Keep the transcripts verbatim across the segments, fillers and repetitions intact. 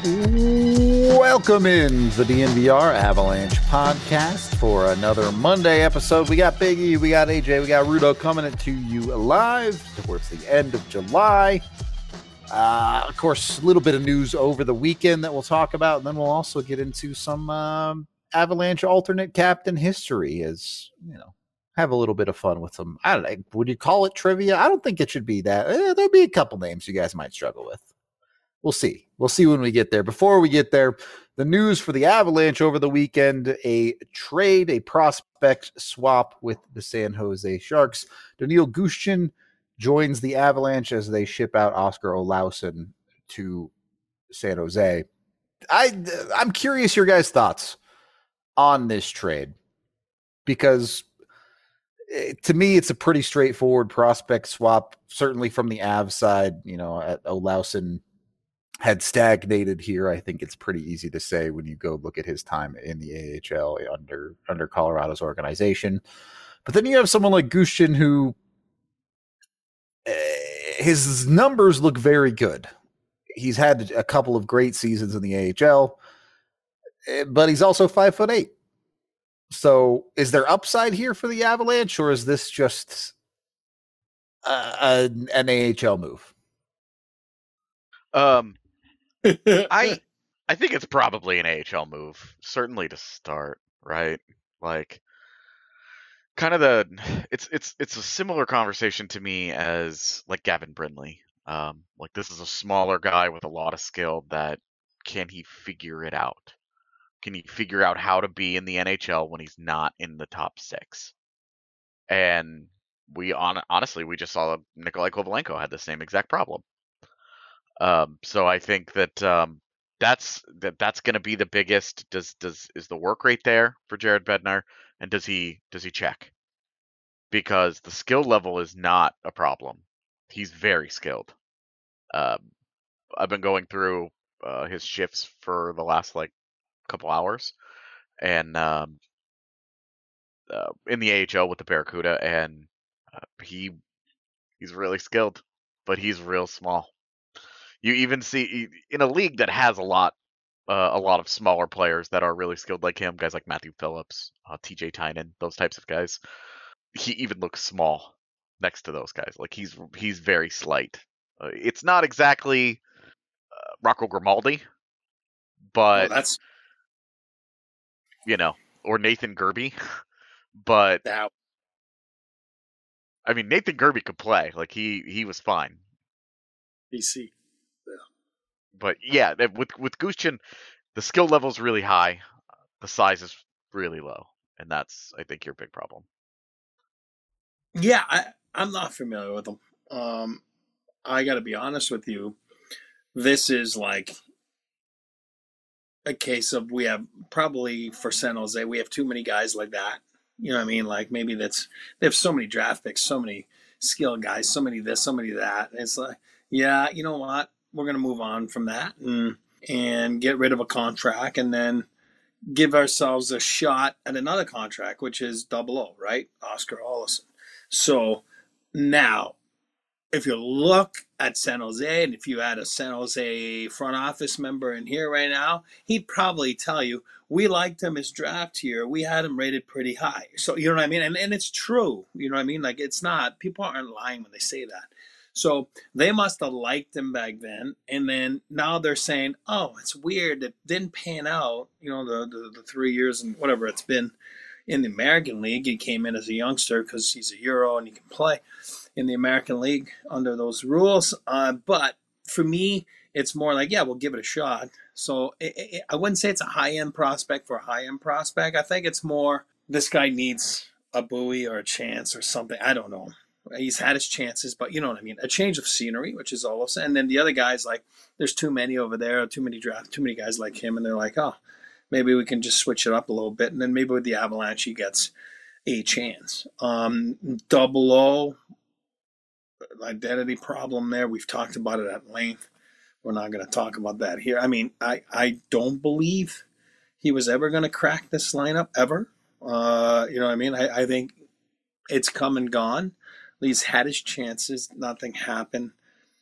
Welcome in the D N V R Avalanche podcast for another Monday episode. We got Biggie, we got A J, we got Rudo coming to you live towards the end of July. Uh, of course, a little bit of news over the weekend that we'll talk about, and then we'll also get into some um, Avalanche alternate captain history, as you know, have a little bit of fun with some. I don't know. Would you call it trivia? I don't think it should be that. Eh, there'll be a couple names you guys might struggle with. We'll see. We'll see when we get there. Before we get there, the news for the Avalanche over the weekend, a trade, a prospect swap with the San Jose Sharks. Daniil Gushchin joins the Avalanche as they ship out Oscar Olausson to San Jose. I, I'm curious your guys' thoughts on this trade, because to me, it's a pretty straightforward prospect swap, certainly from the Avs side. You know, Olausson had stagnated here. I think it's pretty easy to say when you go look at his time in the A H L under under Colorado's organization. But then you have someone like Gushchin who uh, his numbers look very good. He's had a couple of great seasons in the A H L, but he's also five foot eight. So is there upside here for the Avalanche, or is this just uh, a, an A H L move? Um, I I think it's probably an A H L move, certainly to start, right? Like, kind of the it's it's it's a similar conversation to me as like Gavin Brindley. Um, like this is a smaller guy with a lot of skill. That can he figure it out? Can he figure out how to be in the N H L when he's not in the top six? And we on honestly we just saw Nikolai Kovalenko had the same exact problem. Um, so I think that um, that's that that's going to be the biggest. Does does is the work rate there for Jared Bednar, and does he does he check? Because the skill level is not a problem. He's very skilled. Um, I've been going through uh, his shifts for the last like couple hours, and um, uh, in the A H L with the Barracuda, and uh, he he's really skilled, but he's real small. You even see in a league that has a lot, uh, a lot of smaller players that are really skilled like him, guys like Matthew Phillips, uh, T J Tynan, those types of guys. He even looks small next to those guys. Like he's he's very slight. Uh, it's not exactly uh, Rocco Grimaldi, but oh, that's you know, or Nathan Gerbe. But that. I mean, Nathan Gerbe could play. Like he he was fine. B C. But yeah, with with Gushchin, the skill level is really high, the size is really low, and that's I think your big problem. Yeah, I, I'm not familiar with them. Um, I got to be honest with you. This is like a case of we have probably for San Jose we have too many guys like that. You know what I mean? Like maybe that's they have so many draft picks, so many skilled guys, so many this, so many that. And it's like, yeah, you know what? We're going to move on from that and and get rid of a contract and then give ourselves a shot at another contract, which is double O, right? Oscar Olausson. So now, if you look at San Jose, and if you had a San Jose front office member in here right now, he'd probably tell you, we liked him as draft here. We had him rated pretty high. So, you know what I mean? And, and it's true. You know what I mean? Like, it's not, people aren't lying when they say that. So they must have liked him back then, and then now they're saying, "Oh, it's weird. It didn't pan out." You know, the the, the three years and whatever it's been in the American League. He came in as a youngster because he's a Euro and he can play in the American League under those rules. Uh, but for me, it's more like, yeah, we'll give it a shot. So it, it, I wouldn't say it's a high end prospect for a high end prospect. I think it's more this guy needs a buoy or a chance or something. I don't know. He's had his chances, but you know what I mean? A change of scenery, which is all of a sudden. And then the other guys, like, there's too many over there, too many draft, too many guys like him. And they're like, oh, maybe we can just switch it up a little bit. And then maybe with the Avalanche, he gets a chance. Um, double O, identity problem there. We've talked about it at length. We're not going to talk about that here. I mean, I, I don't believe he was ever going to crack this lineup, ever. Uh, you know what I mean? I, I think it's come and gone. He's had his chances. Nothing happened.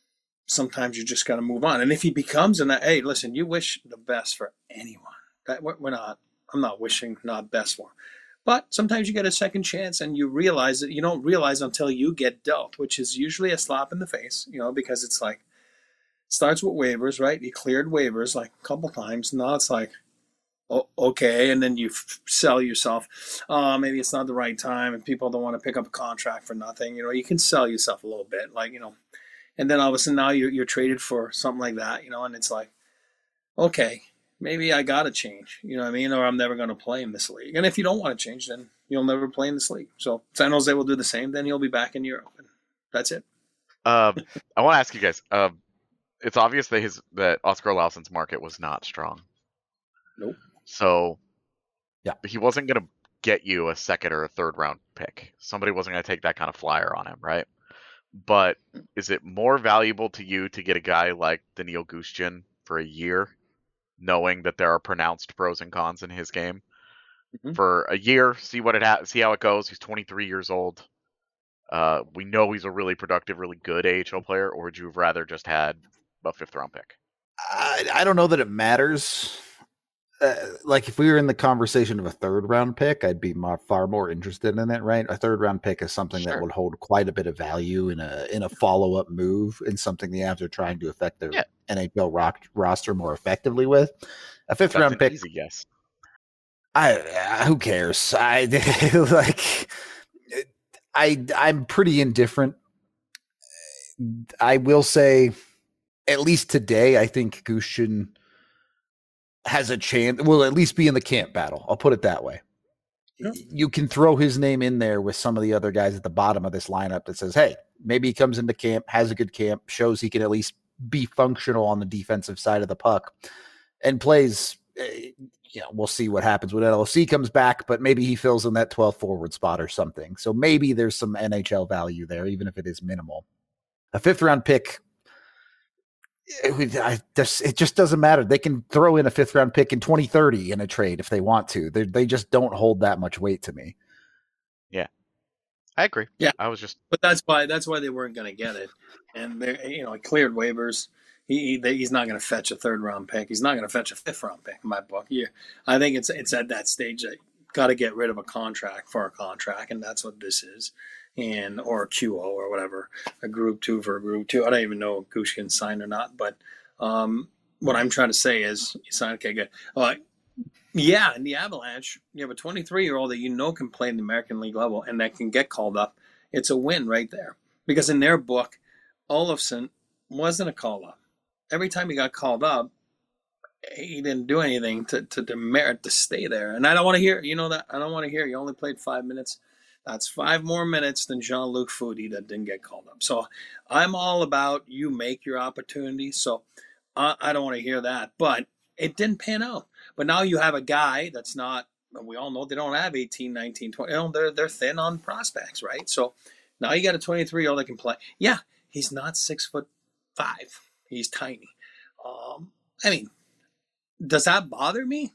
sometimes you just got to move on. And if he becomes an, hey, listen, you wish the best for anyone. That we're not. I'm not wishing not best for him. But sometimes you get a second chance, and you realize that you don't realize until you get dealt, which is usually a slap in the face, you know, because it's like, starts with waivers, right? You cleared waivers like a couple times. Now it's like, oh, okay, and then you f- sell yourself. Uh, maybe it's not the right time, and people don't want to pick up a contract for nothing. You know, you can sell yourself a little bit, like, you know, and then all of a sudden now you're you're traded for something like that, you know, and it's like, okay, maybe I got to change, you know what I mean, or I'm never going to play in this league. And if you don't want to change, then you'll never play in this league. So San Jose will do the same. Then he'll be back in Europe, and that's it. Uh, I want to ask you guys. Uh, it's obvious that his that Oscar Lawson's market was not strong. Nope. So, yeah, he wasn't going to get you a second or a third round pick. Somebody wasn't going to take that kind of flyer on him, right? But is it more valuable to you to get a guy like Daniil Gushchin for a year, knowing that there are pronounced pros and cons in his game? Mm-hmm. For a year, see what it ha- see how it goes. He's twenty-three years old. Uh, we know he's a really productive, really good A H L player. Or would you have rather just had a fifth round pick? I, I don't know that it matters. Uh, like if we were in the conversation of a third round pick, I'd be more, far more interested in it, right? A third round pick is something sure. that would hold quite a bit of value in a in a follow up move, and something the Avs are trying to affect their yeah. N H L rock, roster more effectively with. A fifth That's round pick, easy guess. I uh, who cares? I like. I I'm pretty indifferent. I will say, at least today, I think Gushchin has a chance, will at least be in the camp battle. I'll put it that way. Yeah. You can throw his name in there with some of the other guys at the bottom of this lineup that says, hey, maybe he comes into camp, has a good camp, shows he can at least be functional on the defensive side of the puck, and plays. You know, we'll see what happens when L O C comes back, but maybe he fills in that twelfth forward spot or something. So maybe there's some N H L value there, even if it is minimal. A fifth round pick, It, I, it just doesn't matter. They can throw in a fifth round pick in twenty thirty in a trade if they want to. They they just don't hold that much weight to me. Yeah, I agree. Yeah, I was just, but that's why that's why they weren't going to get it, and they you know he cleared waivers. He, he they, he's not going to fetch a third round pick. He's not going to fetch a fifth round pick in my book. Yeah, I think it's it's at that stage that got to get rid of a contract for a contract, and that's what this is. And or a Q O or whatever, a group two for a group two. I don't even know if Gushchin signed or not, but um, what I'm trying to say is, you signed, okay, good. Uh, yeah, in the Avalanche, you have a twenty-three-year-old that you know can play in the American League level and that can get called up. It's a win right there. Because in their book, Olofsson wasn't a call-up. Every time he got called up, he didn't do anything to, to, to merit to stay there. And I don't want to hear, you know that, I don't want to hear, you only played five minutes. That's five more minutes than Jean-Luc Foudy that didn't get called up. So I'm all about you make your opportunities. So uh, I don't want to hear that. But it didn't pan out. But now you have a guy that's not, we all know they don't have eighteen, nineteen, twenty. You know, they're, they're thin on prospects, right? So now you got a twenty-three-year-old that can play. Yeah, he's not six foot five. He's tiny. Um, I mean, does that bother me?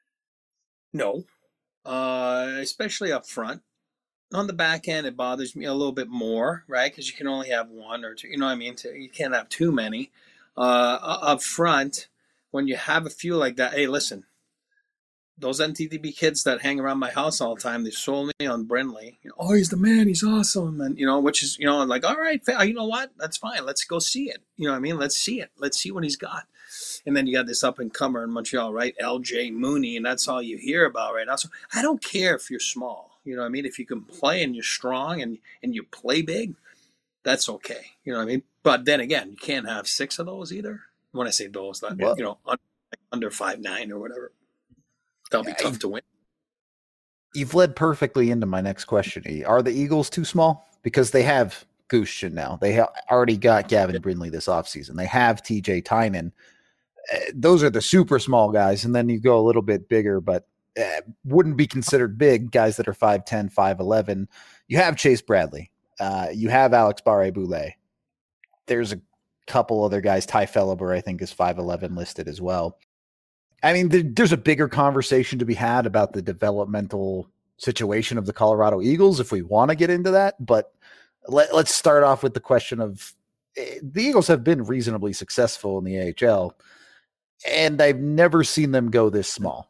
No. Uh, especially up front. On the back end, it bothers me a little bit more, right? Because you can only have one or two. You know what I mean? You can't have too many. Uh, up front, when you have a few like that, hey, listen, those N T D B kids that hang around my house all the time, they sold me on Brindley. You know, oh, he's the man. He's awesome. And, you know, which is, you know, like, all right, you know what? That's fine. Let's go see it. You know what I mean? Let's see it. Let's see what he's got. And then you got this up-and-comer in Montreal, right? L J Mooney, and that's all you hear about right now. So I don't care if you're small. You know what I mean? If you can play and you're strong and, and you play big, that's okay. You know what I mean? But then again, you can't have six of those either. When I say those, that, well, you know, under, under five nine or whatever. That'll be tough to win. You've led perfectly into my next question. Are the Eagles too small? Because they have Gushchin now. They ha- already got Gavin Brindley this offseason. They have T J Tynan. Uh, those are the super small guys. And then you go a little bit bigger, but uh, wouldn't be considered big guys that are five ten, five eleven. You have Chase Bradley. Uh, you have Alex Barré-Boulet. There's a couple other guys. Ty Felleber, I think, is five eleven listed as well. I mean, there, there's a bigger conversation to be had about the developmental situation of the Colorado Eagles if we want to get into that. But let, let's start off with the question of, the Eagles have been reasonably successful in the A H L, and I've never seen them go this small.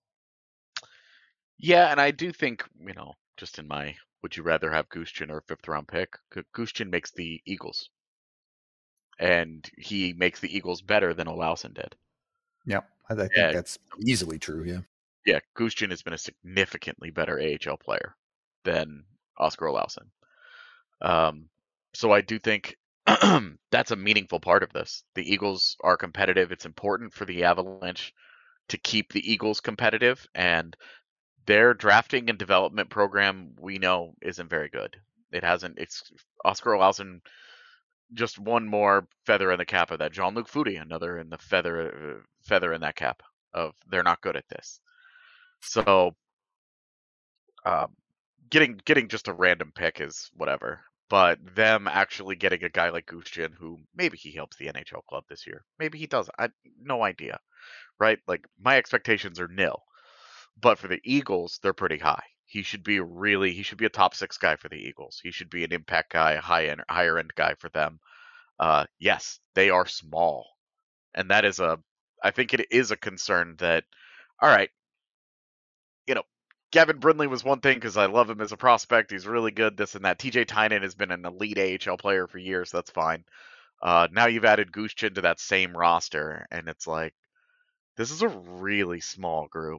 Yeah, and I do think, you know, just in my would you rather have Gushchin or a fifth round pick, Gushchin makes the Eagles. And he makes the Eagles better than Olausson did. Yeah, I, I think yeah. that's easily true, yeah. Yeah, Gushchin has been a significantly better A H L player than Oscar Olausson. Um, so I do think that's a meaningful part of this. The Eagles are competitive. It's important for the Avalanche to keep the Eagles competitive, and their drafting and development program, we know, isn't very good. It hasn't. It's Oscar Olausson, just one more feather in the cap of that. Jean-Luc Foudy, another in the feather uh, feather in that cap of they're not good at this. So, um, getting getting just a random pick is whatever. But them actually getting a guy like Gushchin, who maybe he helps the N H L club this year, maybe he doesn't. I no idea, right? Like my expectations are nil, but for the Eagles, they're pretty high. He should be really he should be a top six guy for the Eagles. He should be an impact guy, a high end, higher end guy for them. Uh, yes, they are small, and that is a I think it is a concern that. All right, you know. Gavin Brindley was one thing because I love him as a prospect. He's really good, this and that. T J Tynan has been an elite A H L player for years. That's fine. Uh, now you've added Gushchin to that same roster, and it's like, this is a really small group.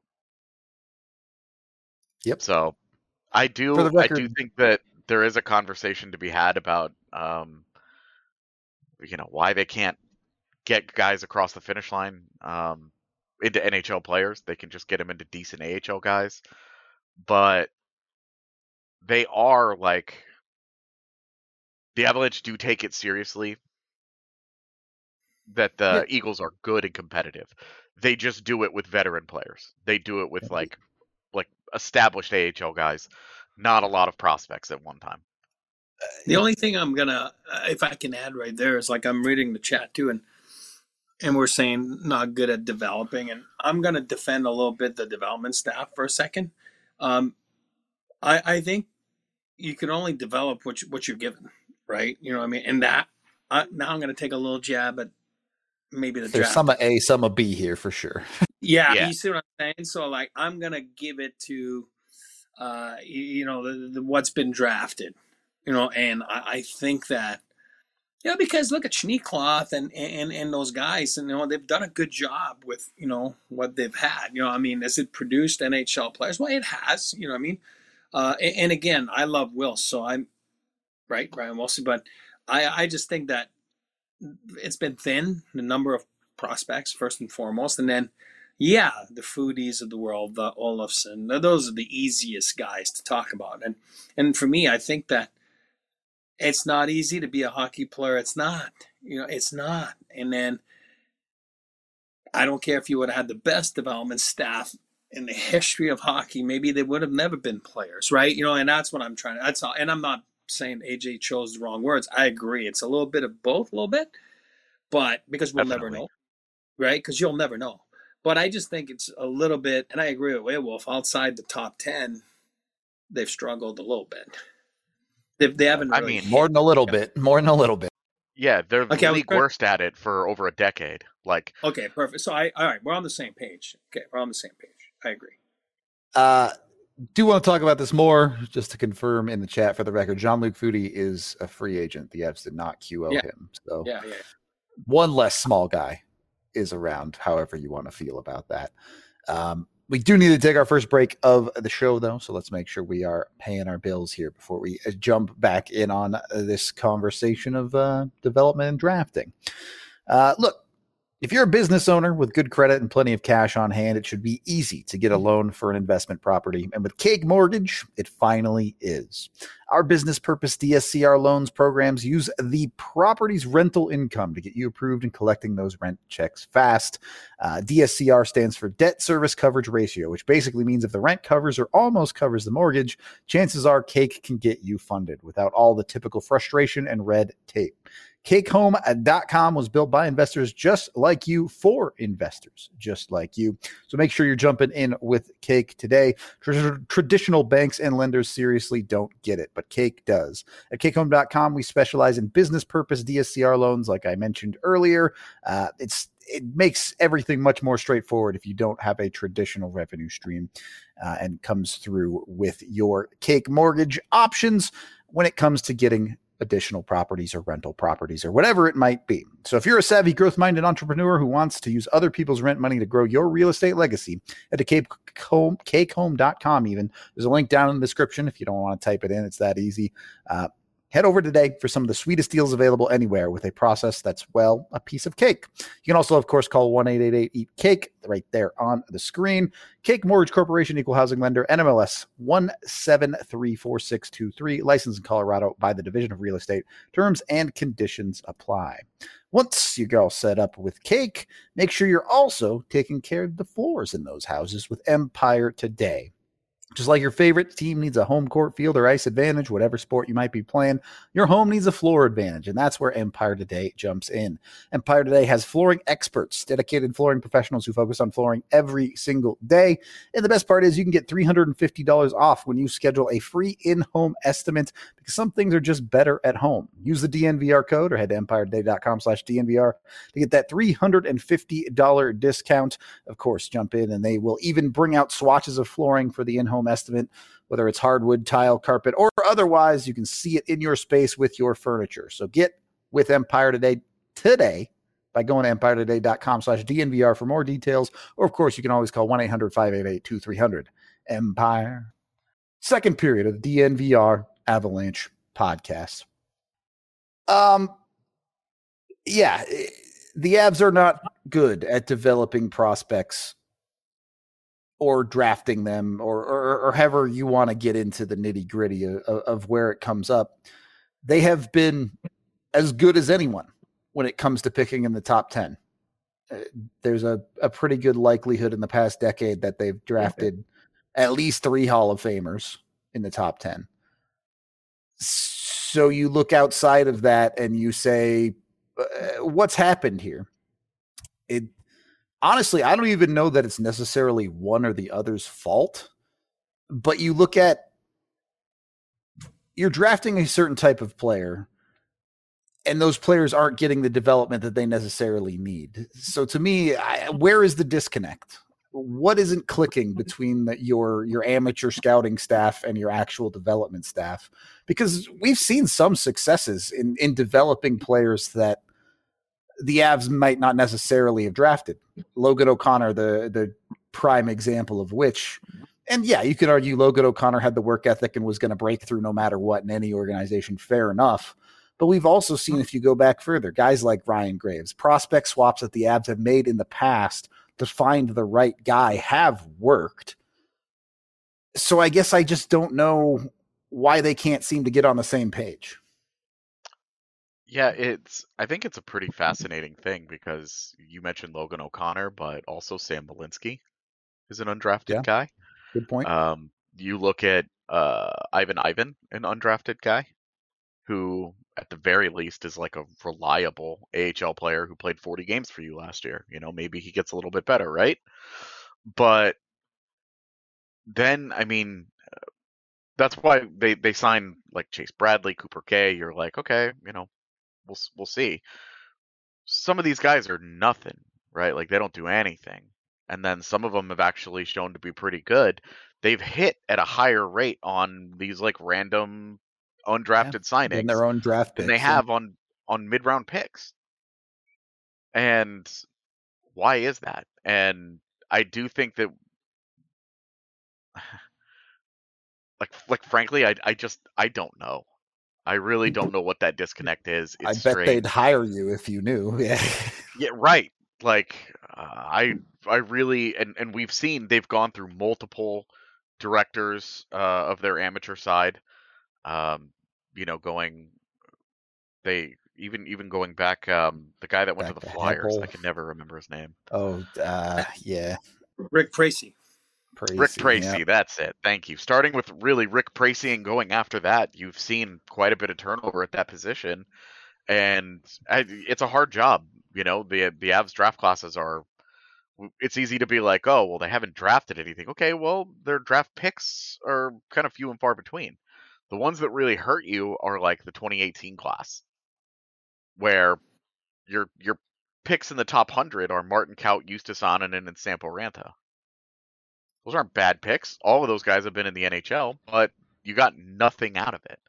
Yep. So I do, record, I do think that there is a conversation to be had about, um, you know, why they can't get guys across the finish line um, into N H L players. They can just get them into decent A H L guys. But they are like the Avalanche do take it seriously that the yeah. Eagles are good and competitive. They just do it with veteran players. They do it with yeah. like like established A H L guys, not a lot of prospects at one time. The only thing I'm gonna, if I can add right there, is like I'm reading the chat too, and and we're saying not good at developing, and I'm gonna defend a little bit the development staff for a second. Um, I, I think you can only develop what, you, what you're given, right? You know what I mean? And that, uh, now I'm going to take a little jab at maybe the There's draft. some A, some a B here for sure. Yeah, yeah, you see what I'm saying? So, like, I'm going to give it to, uh, you, you know, the, the, what's been drafted, you know, and I, I think that, you know, because look at Schneekloth and, and, and those guys, and, you know, they've done a good job with, you know, what they've had. You know, I mean, has it produced N H L players? Well, it has, you know what I mean? Uh, and, and again, I love Will, so I'm right, Brian Wilson, but I, I just think that it's been thin, the number of prospects, first and foremost. And then, yeah, the Foodies of the world, the Olofsson, those are the easiest guys to talk about. And, and for me, I think that it's not easy to be a hockey player. It's not, you know, it's not. And then I don't care if you would have had the best development staff in the history of hockey, maybe they would have never been players, right? You know, and that's what I'm trying to, that's all. And I'm not saying A J chose the wrong words. I agree. It's a little bit of both, a little bit, but because we'll Definitely. never know, right? Because you'll never know. But I just think it's a little bit, and I agree with Werewolf, outside the top ten, they've struggled a little bit. They, they haven't really. I mean, more than a little yeah. bit, more than a little bit. Yeah, they're the okay, league worst at it for over a decade. Like, okay, perfect. So I, all right, we're on the same page. Okay, we're on the same page. I agree. Uh, do want to talk about this more, just to confirm in the chat for the record. Jean-Luc Foudy is a free agent. The Avs did not Q O yeah. him. So yeah, yeah. one less small guy is around, however you want to feel about that. Um, we do need to take our first break of the show, though, so let's make sure we are paying our bills here before we jump back in on uh, this conversation of uh, development and drafting. Uh, look, if you're a business owner with good credit and plenty of cash on hand, it should be easy to get a loan for an investment property. And with Cake Mortgage, it finally is. Our business purpose D S C R loans programs use the property's rental income to get you approved and collecting those rent checks fast. Uh, D S C R stands for Debt Service Coverage Ratio, which basically means if the rent covers or almost covers the mortgage, chances are Cake can get you funded without all the typical frustration and red tape. cake home dot com was built by investors just like you for investors just like you. So make sure you're jumping in with Cake today. Tr- traditional banks and lenders seriously don't get it, but Cake does. At cake home dot com, we specialize in business purpose D S C R loans, like I mentioned earlier. Uh, it's it makes everything much more straightforward if you don't have a traditional revenue stream, uh, and comes through with your Cake mortgage options when it comes to getting additional properties or rental properties or whatever it might be. So if you're a savvy, growth-minded entrepreneur who wants to use other people's rent money to grow your real estate legacy, head to cake home, cake home dot com even. There's a link down in the description if you don't want to type it in. It's that easy. Uh, Head over today for some of the sweetest deals available anywhere with a process that's, well, a piece of cake. You can also, of course, call one eight eight eight eat cake right there on the screen. Cake Mortgage Corporation, Equal Housing Lender, N M L S one seven three four six two three, licensed in Colorado by the Division of Real Estate. Terms and conditions apply. Once you get all set up with Cake, make sure you're also taking care of the floors in those houses with Empire Today. Just like your favorite team needs a home court, field, or ice advantage, whatever sport you might be playing, your home needs a floor advantage, and that's where Empire Today jumps in. Empire Today has flooring experts, dedicated flooring professionals who focus on flooring every single day. And the best part is you can get three hundred fifty dollars off when you schedule a free in-home estimate, because some things are just better at home. Use the D N V R code or head to empire today dot com slash D N V R to get that three hundred fifty dollars discount. Of course, jump in, and they will even bring out swatches of flooring for the in-home estimate, whether it's hardwood, tile, carpet, or otherwise. You can see it in your space with your furniture. So get with Empire Today today by going to empire today dot com slash D N V R for more details. Or, of course, you can always call one eight hundred five eight eight two three zero zero. Empire. Second period of the D N V R Avalanche podcast. Um, yeah, the Avs are not good at developing prospects or drafting them, or, or, or however you want to get into the nitty gritty of, of where it comes up. They have been as good as anyone when it comes to picking in the top ten. Uh, there's a, a pretty good likelihood in the past decade that they've drafted at least three Hall of Famers in the top ten. So you look outside of that and you say, uh, what's happened here? It, Honestly, I don't even know that it's necessarily one or the other's fault, but you look at, you're drafting a certain type of player, and those players aren't getting the development that they necessarily need. So to me, I, where is the disconnect? What isn't clicking between the, your your amateur scouting staff and your actual development staff? Because we've seen some successes in, in developing players that the Avs might not necessarily have drafted. Logan O'Connor, the the prime example of which, and yeah, you could argue Logan O'Connor had the work ethic and was going to break through no matter what in any organization. Fair enough. But we've also seen, if you go back further, guys like Ryan Graves, prospect swaps that the Avs have made in the past to find the right guy have worked. So I guess I just don't know why they can't seem to get on the same page. Yeah, it's. I think it's a pretty fascinating thing because you mentioned Logan O'Connor, but also Sam Malinsky is an undrafted Yeah, guy. Good point. Um, you look at uh, Ivan Ivan, an undrafted guy, who at the very least is like a reliable A H L player who played forty games for you last year. You know, maybe he gets a little bit better, right? But then, I mean, that's why they they sign like Chase Bradley, Cooper Kay. You're like, okay, you know. We'll we'll see. Some of these guys are nothing, right? Like they don't do anything, and then some of them have actually shown to be pretty good. They've hit at a higher rate on these like random undrafted yeah, signings in their own draft picks, than they have on on mid round picks. And why is that? And I do think that, like like frankly, I I just I don't know. I really don't know what that disconnect is. It's I bet strange. They'd hire you if you knew. Yeah. Yeah, right. Like uh, I, I really, and, and we've seen they've gone through multiple directors uh, of their amateur side. Um, you know, going, they even even going back, um, the guy that went back to the to Flyers. Heppel. I can never remember his name. Oh, uh, yeah. Rick Tracy. Tracy, Rick Tracy, yeah. That's it. Thank you. Starting with really Rick Tracy and going after that, you've seen quite a bit of turnover at that position. And I, it's a hard job. You know, the the Avs draft classes are. It's easy to be like, oh, well, they haven't drafted anything. Okay, well, their draft picks are kind of few and far between. The ones that really hurt you are like the twenty eighteen class, where your your picks in the top one hundred are Martin Kaut, Justus Annunen, and Sampo Ranta. Those aren't bad picks. All of those guys have been in the N H L, but you got nothing out of it.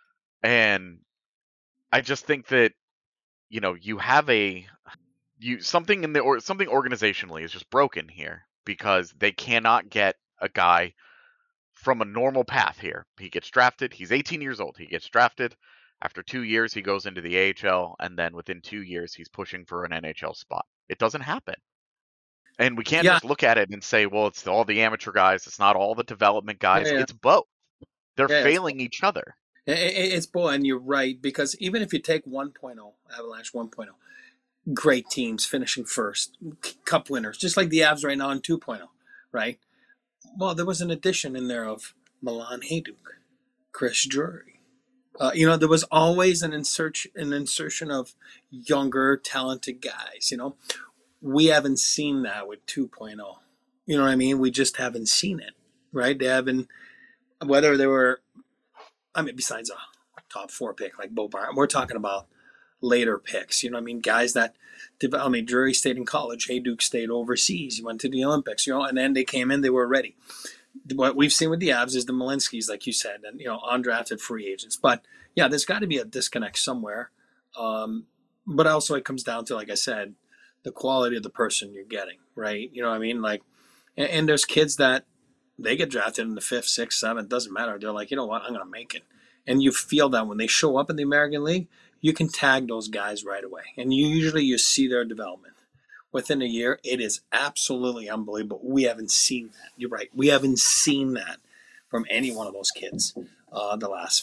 And I just think that, you know, you have a you something in the or something organizationally is just broken here, because they cannot get a guy from a normal path here. He gets drafted. He's eighteen years old. He gets drafted. After two years, he goes into the A H L, and then within two years, he's pushing for an N H L spot. It doesn't happen. And we can't Yeah. just look at it and say, well, it's all the amateur guys. It's not all the development guys. Yeah, yeah. It's both. They're Yeah, it's failing each other. It- it- It's boy, and you're right, because even if you take one point oh, Avalanche one point oh, great teams finishing first, cup winners, just like the Avs right now in two point oh, right? Well, there was an addition in there of Milan Hajduk, Chris Drury. Uh, you know, there was always an insert, an insertion of younger, talented guys. You know, we haven't seen that with two point oh. You know what I mean? We just haven't seen it, right? They haven't, whether they were, I mean, besides a top four pick like Bo Barton, we're talking about later picks. You know what I mean? Guys that, I mean, Drury stayed in college. Hajduk stayed overseas. He went to the Olympics, you know, and then they came in, they were ready. What we've seen with the Avs is the Malinskis, like you said, and, you know, undrafted free agents. But, yeah, there's got to be a disconnect somewhere. Um, but also it comes down to, like I said, the quality of the person you're getting, right? You know what I mean? Like, and, and there's kids that they get drafted in the fifth, sixth, seventh, doesn't matter. They're like, you know what, I'm going to make it. And you feel that when they show up in the American League, you can tag those guys right away. And you usually you see their development. Within a year, it is absolutely unbelievable. We haven't seen that. You're right. We haven't seen that from any one of those kids uh, the last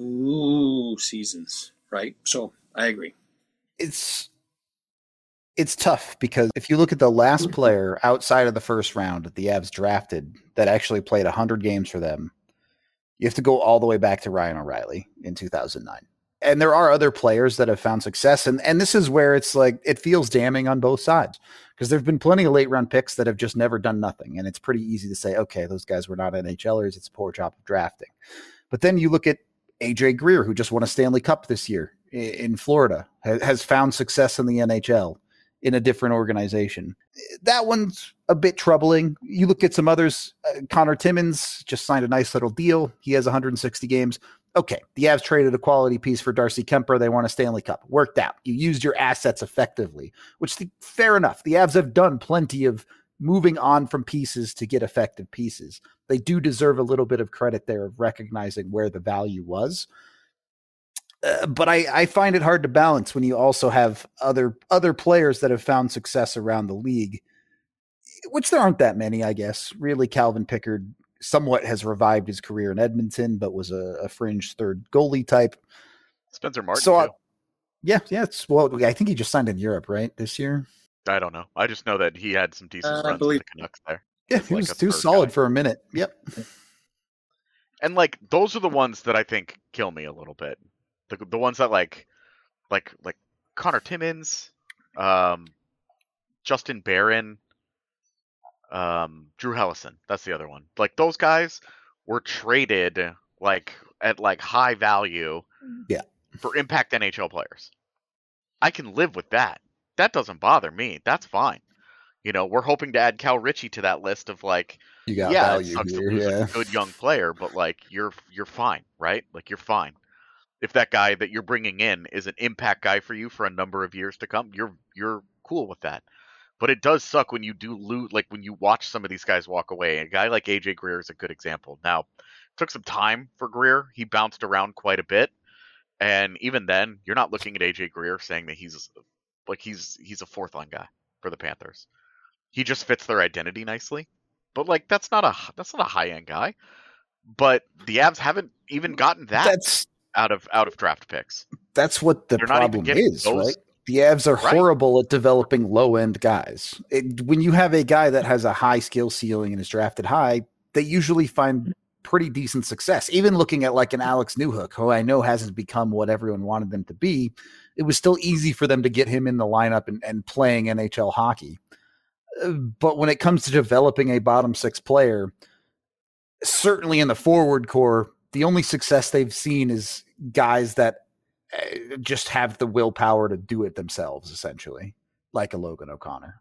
few seasons, right? So I agree. It's it's tough because if you look at the last player outside of the first round that the Avs drafted that actually played one hundred games for them, you have to go all the way back to Ryan O'Reilly in two thousand nine. And there are other players that have found success. And, and this is where it's like, it feels damning on both sides, because there've been plenty of late round picks that have just never done nothing. And it's pretty easy to say, okay, those guys were not NHLers. It's a poor job of drafting. But then you look at A J Greer, who just won a Stanley Cup this year in Florida, has found success in the N H L in a different organization. That one's a bit troubling. You look at some others. Uh, Connor Timmins just signed a nice little deal. He has one hundred sixty games. Okay, the Avs traded a quality piece for Darcy Kemper. They won a Stanley Cup. Worked out. You used your assets effectively, which the, fair enough. The Avs have done plenty of moving on from pieces to get effective pieces. They do deserve a little bit of credit there of recognizing where the value was. Uh, but I, I find it hard to balance when you also have other other players that have found success around the league, which there aren't that many, I guess. Really, Calvin Pickard somewhat has revived his career in Edmonton, but was a, a fringe third goalie type. Spencer Martin, so, too. Yeah, yeah. It's, well, I think he just signed in Europe, right, this year? I don't know. I just know that he had some decent Uh, I runs believe- with the Canucks there. Yeah, As he like was a too third solid guy. for a minute. Yep. And like those are the ones that I think kill me a little bit. The the ones that like like like Connor Timmins, um, Justin Barron, um, Drew Hellison. That's the other one. Like those guys were traded like at like high value, Yeah. for impact N H L players. I can live with that. That doesn't bother me. That's fine. You know, we're hoping to add Cal Ritchie to that list of like, You got yeah, it value sucks here. to lose Yeah. a good young player, but like you're you're fine, right? Like you're fine. If that guy that you're bringing in is an impact guy for you for a number of years to come, you're you're cool with that. But it does suck when you do lose, like when you watch some of these guys walk away. A guy like A J Greer is a good example. Now, it took some time for Greer. He bounced around quite a bit, and even then, you're not looking at A J Greer saying that he's like he's he's a fourth line guy for the Panthers. He just fits their identity nicely. But like that's not a that's not a high end guy. But the Avs haven't even gotten that That's out of out of draft picks. that's what the They're not even problem getting is, those- right? The Avs are Right. horrible at developing low-end guys. It, when you have a guy that has a high skill ceiling and is drafted high, they usually find pretty decent success. Even looking at like an Alex Newhook, who I know hasn't become what everyone wanted them to be, it was still easy for them to get him in the lineup and, and playing N H L hockey. But when it comes to developing a bottom six player, certainly in the forward core, the only success they've seen is guys that just have the willpower to do it themselves, essentially, like a Logan O'Connor.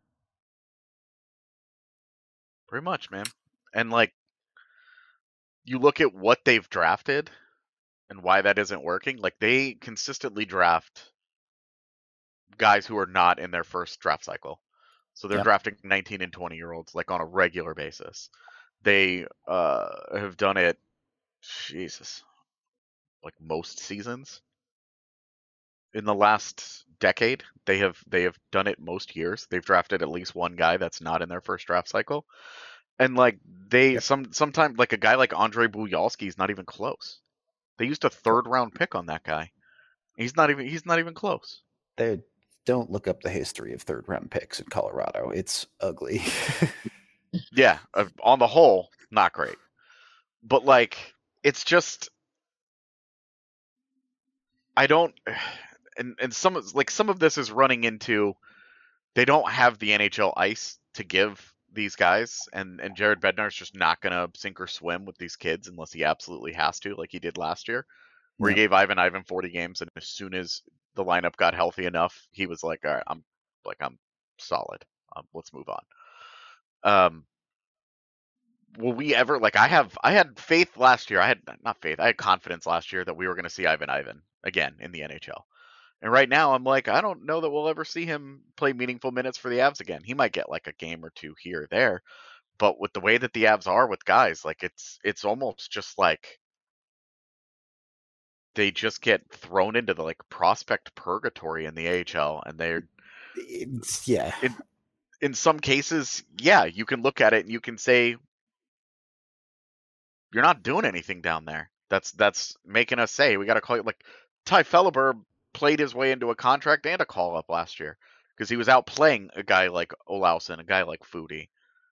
Pretty much, man. And like, you look at what they've drafted and why that isn't working. Like, they consistently draft guys who are not in their first draft cycle. So they're yep. drafting nineteen and twenty year olds like on a regular basis. They uh, have done it, Jesus, like most seasons in the last decade. They have they have done it most years. They've drafted at least one guy that's not in their first draft cycle. And like they yep. some sometimes like a guy like Andre Buyalski is not even close. They used a third round pick on that guy. He's not even he's not even close. They don't look up the history of third round picks in Colorado. It's ugly. Yeah, uh, on the whole, not great. But like it's just I don't and and some like some of this is running into they don't have the N H L ice to give these guys, and and Jared Bednar's just not gonna sink or swim with these kids unless he absolutely has to, like he did last year, where yeah. he gave Ivan Ivan forty games, and as soon as the lineup got healthy enough, he was like, all right, I'm like I'm solid. Um, let's move on. Um, will we ever like I have I had faith last year. I had not faith. I had confidence last year that we were gonna see Ivan Ivan again in the N H L. And right now, I'm like, I don't know that we'll ever see him play meaningful minutes for the Avs again. He might get like a game or two here or there, but with the way that the Avs are with guys, like it's it's almost just like they just get thrown into the like prospect purgatory in the A H L, and they're it's, yeah. In, in some cases, yeah, you can look at it and you can say you're not doing anything down there. That's that's making us say we got to call it like Ty Felleber played his way into a contract and a call up last year because he was out playing a guy like Olausson, a guy like Foudy.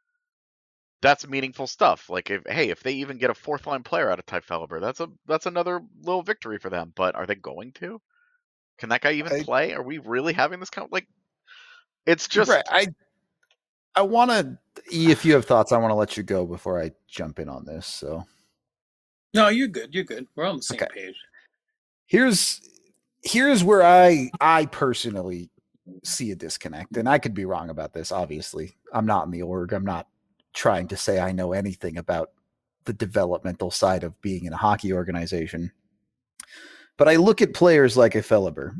That's meaningful stuff. Like, if hey, if they even get a fourth line player out of Ty Felleber, that's a that's another little victory for them. But are they going to? Can that guy even I, play? Are we really having this count? Like, it's just right. I I want to. If you have thoughts, I want to let you go before I jump in on this. So, no, you're good. You're good. We're on the same okay. page. Here's. Here's where I I personally see a disconnect, and I could be wrong about this. Obviously, I'm not in the org. I'm not trying to say I know anything about the developmental side of being in a hockey organization. But I look at players like a Felleber,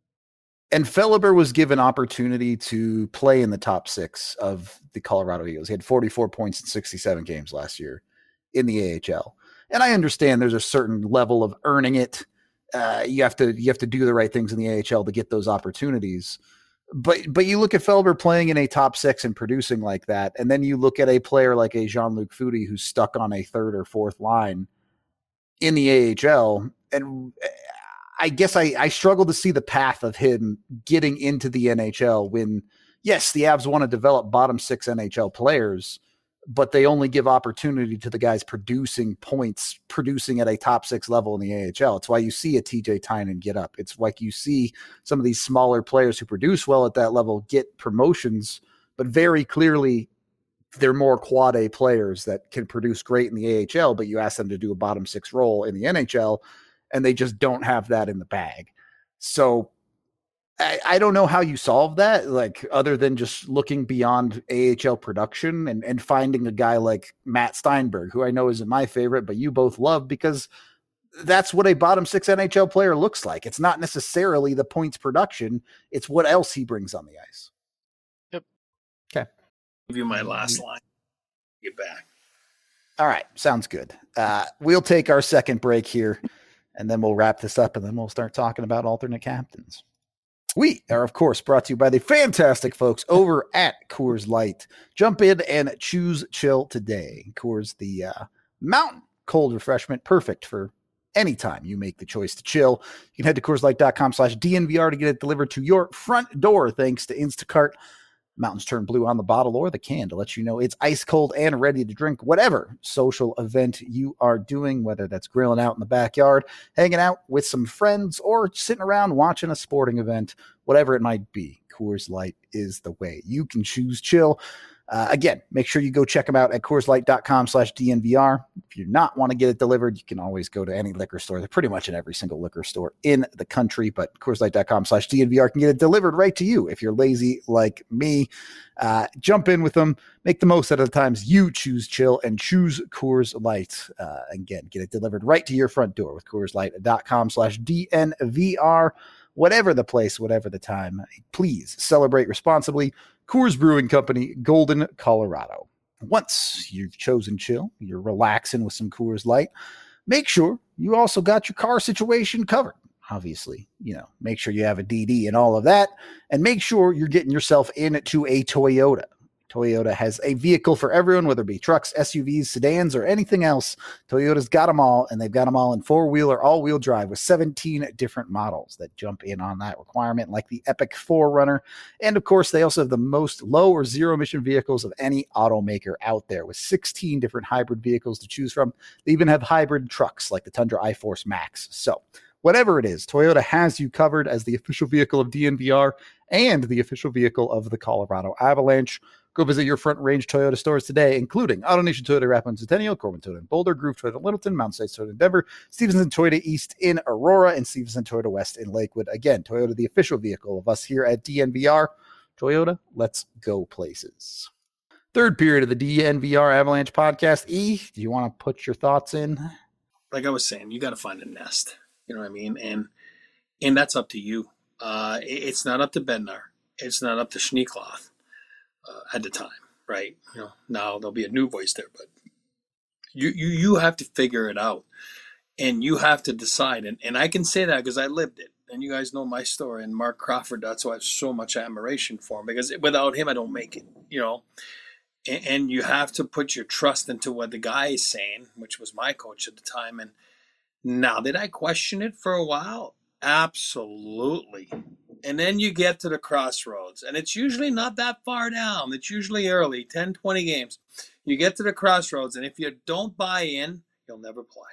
and Felleber was given opportunity to play in the top six of the Colorado Eagles. He had forty-four points in sixty-seven games last year in the A H L. And I understand there's a certain level of earning it. Uh, you have to you have to do the right things in the A H L to get those opportunities. But but you look at Felleber playing in a top six and producing like that, and then you look at a player like a Jean-Luc Foudy who's stuck on a third or fourth line in the A H L, and I guess I, I struggle to see the path of him getting into the N H L when, yes, the Avs want to develop bottom six N H L players, but they only give opportunity to the guys producing points, producing at a top six level in the A H L. It's why you see a T J Tynan get up. It's like you see some of these smaller players who produce well at that level get promotions, but very clearly they're more quad A players that can produce great in the A H L, but you ask them to do a bottom six role in the N H L, and they just don't have that in the bag. So I, I don't know how you solve that, like other than just looking beyond A H L production and, and finding a guy like Matt Steinberg, who I know isn't my favorite, but you both love because that's what a bottom six N H L player looks like. It's not necessarily the points production. It's what else he brings on the ice. Yep. Okay. Give you my last line. Get back. All right. Sounds good. Uh, we'll take our second break here and then we'll wrap this up and then we'll start talking about alternate captains. We are, of course, brought to you by the fantastic folks over at Coors Light. Jump in and choose chill today. Coors, the uh, mountain cold refreshment, perfect for any time you make the choice to chill. You can head to CoorsLight.com slash DNVR to get it delivered to your front door thanks to Instacart. Mountains turn blue on the bottle or the can to let you know it's ice cold and ready to drink whatever social event you are doing, whether that's grilling out in the backyard, hanging out with some friends, or sitting around watching a sporting event, whatever it might be. Coors Light is the way. You can choose chill. Uh, again, make sure you go check them out at CoorsLight.com slash DNVR. If you not want to get it delivered, you can always go to any liquor store. They're pretty much in every single liquor store in the country, but CoorsLight.com slash DNVR can get it delivered right to you. If you're lazy like me, uh, jump in with them. Make the most out of the times you choose chill and choose Coors Light. Uh, again, get it delivered right to your front door with CoorsLight.com slash DNVR. Whatever the place, whatever the time, please celebrate responsibly. Coors Brewing Company, Golden, Colorado. Once you've chosen chill, you're relaxing with some Coors Light, make sure you also got your car situation covered. Obviously, you know, make sure you have a D D and all of that, and make sure you're getting yourself into a Toyota. Toyota has a vehicle for everyone, whether it be trucks, S U Vs, sedans, or anything else. Toyota's got them all, and they've got them all in four-wheel or all-wheel drive with seventeen different models that jump in on that requirement, like the Epic four runner. And, of course, they also have the most low or zero-emission vehicles of any automaker out there with sixteen different hybrid vehicles to choose from. They even have hybrid trucks like the Tundra iForce Max. So, whatever it is, Toyota has you covered as the official vehicle of D N V R and the official vehicle of the Colorado Avalanche. Go visit your Front Range Toyota stores today, including AutoNation Toyota Rapids Centennial, Corbin Toyota in Boulder, Groove Toyota in Littleton, Mountain States Toyota in Denver, Stevenson Toyota East in Aurora, and Stevenson Toyota West in Lakewood. Again, Toyota, the official vehicle of us here at D N V R. Toyota, let's go places. Third period of the D N V R Avalanche podcast. E, do you want to put your thoughts in? Like I was saying, you got to find a nest. You know what I mean? And and that's up to you. Uh, it, it's not up to Bednar. It's not up to Schneekloth. Uh, at the time, right? You know, now there'll be a new voice there, but you you you have to figure it out, and you have to decide. And and I can say that because I lived it, and you guys know my story. And Mark Crawford, that's why I have so much admiration for him, because without him, I don't make it. You know, and, and you have to put your trust into what the guy is saying, which was my coach at the time. And now, did I question it for a while? Absolutely. And then you get to the crossroads, and it's usually not that far down. It's usually early, ten, twenty games. You get to the crossroads, and if you don't buy in, you'll never play.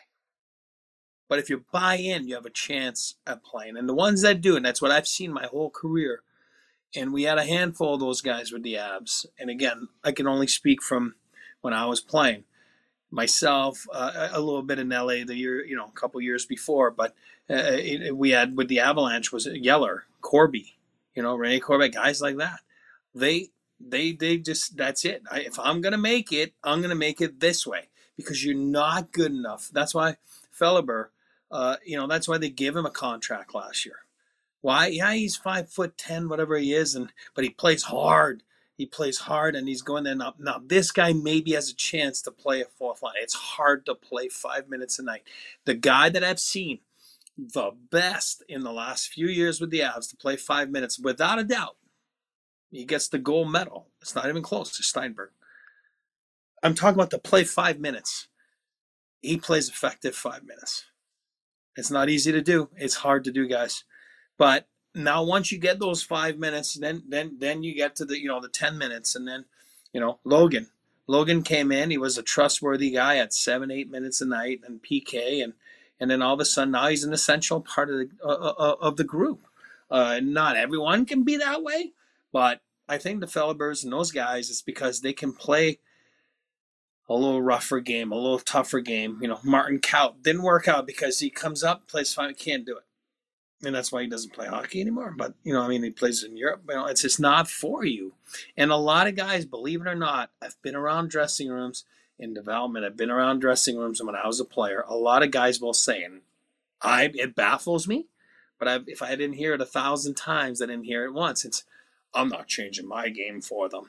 But if you buy in, you have a chance at playing. And the ones that do, and that's what I've seen my whole career, and we had a handful of those guys with the Avs. And again, I can only speak from when I was playing. Myself, uh, a little bit in L A the year, you know, a couple years before, but uh, it, we had with the Avalanche was Yeller, Corby, you know, Rene Corby, guys like that. They, they, they just, that's it. I, if I'm going to make it, I'm going to make it this way, because you're not good enough. That's why Felleber, uh, you know, that's why they gave him a contract last year. Why? Yeah, he's five foot ten, whatever he is, and but he plays hard. He plays hard, and he's going there now. Now, this guy maybe has a chance to play a fourth line. It's hard to play five minutes a night. The guy that I've seen the best in the last few years with the Avs to play five minutes, without a doubt, he gets the gold medal. It's not even close to Steinberg. I'm talking about to play five minutes. He plays effective five minutes. It's not easy to do. It's hard to do, guys. But now, once you get those five minutes, then then then you get to the you know the ten minutes, and then you know Logan. Logan came in. He was a trustworthy guy at seven, eight minutes a night and P K, and and then all of a sudden now he's an essential part of the uh, uh, of the group. Uh, not everyone can be that way, but I think the Fellebers and those guys, it's because they can play a little rougher game, a little tougher game. You know, Martin Kaut didn't work out because he comes up, plays fine, can't do it. And that's why he doesn't play hockey anymore. But, you know, I mean, he plays in Europe. You know, it's just not for you. And a lot of guys, believe it or not, I've been around dressing rooms in development. I've been around dressing rooms when I was a player. A lot of guys will say, and I, it baffles me, but I've, if I didn't hear it a thousand times, I didn't hear it once. It's, I'm not changing my game for them.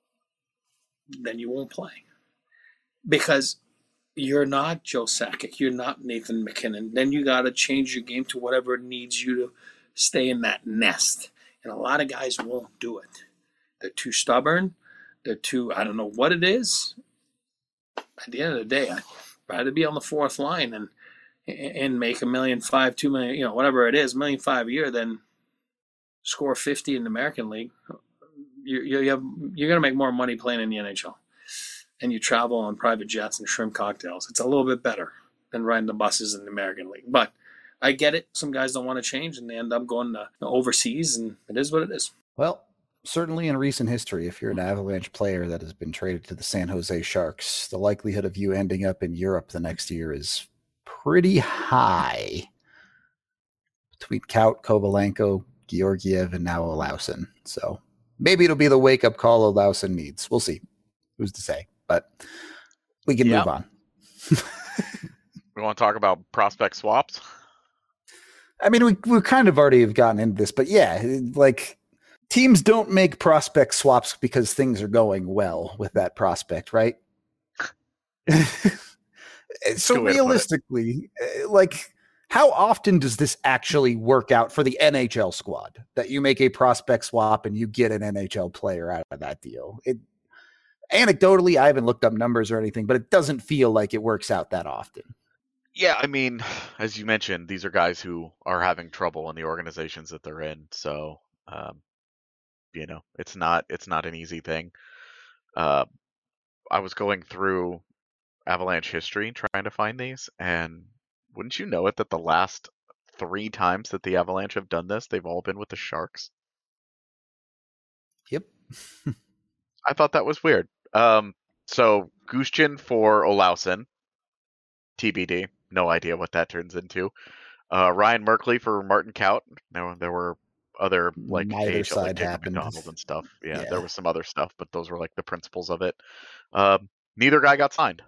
Then you won't play. Because you're not Joe Sakic. You're not Nathan McKinnon. Then you got to change your game to whatever needs you to stay in that nest. And a lot of guys won't do it. They're too stubborn. They're too, I don't know what it is. At the end of the day, I'd rather be on the fourth line and and make a million five, two million, you know, whatever it is, a million five a year than score fifty in the American League. you you have you're gonna make more money playing in the N H L, and you travel on private jets and shrimp cocktails. It's a little bit better than riding the buses in the American League. But I get it. Some guys don't want to change, and they end up going to overseas, and it is what it is. Well, certainly in recent history, if you're an Avalanche player that has been traded to the San Jose Sharks, the likelihood of you ending up in Europe the next year is pretty high. Between Kaut, Kovalenko, Georgiev, and now Olausen. So maybe it'll be the wake-up call Olausen needs. We'll see. Who's to say? But we can Yep. move on. We want to talk about prospect swaps? I mean, we we kind of already have gotten into this, but yeah, like teams don't make prospect swaps because things are going well with that prospect, right? So Good way to put it. realistically, uh, like how often does this actually work out for the N H L squad that you make a prospect swap and you get an N H L player out of that deal? It anecdotally, I haven't looked up numbers or anything, but it doesn't feel like it works out that often. Yeah, I mean, as you mentioned, these are guys who are having trouble in the organizations that they're in. So, um, you know, it's not it's not an easy thing. Uh, I was going through Avalanche history trying to find these, and wouldn't you know it that the last three times that the Avalanche have done this, they've all been with the Sharks. Yep. I thought that was weird. Um, so Gushchin for Olausen, T B D. No idea what that turns into. Uh, Ryan Merkley for Martin Kaut. Now there were other like Neither A H L, side like Jacob happened. McDonald and stuff. Yeah, Yeah. there was some other stuff, but those were like the principles of it. Um, neither guy got signed.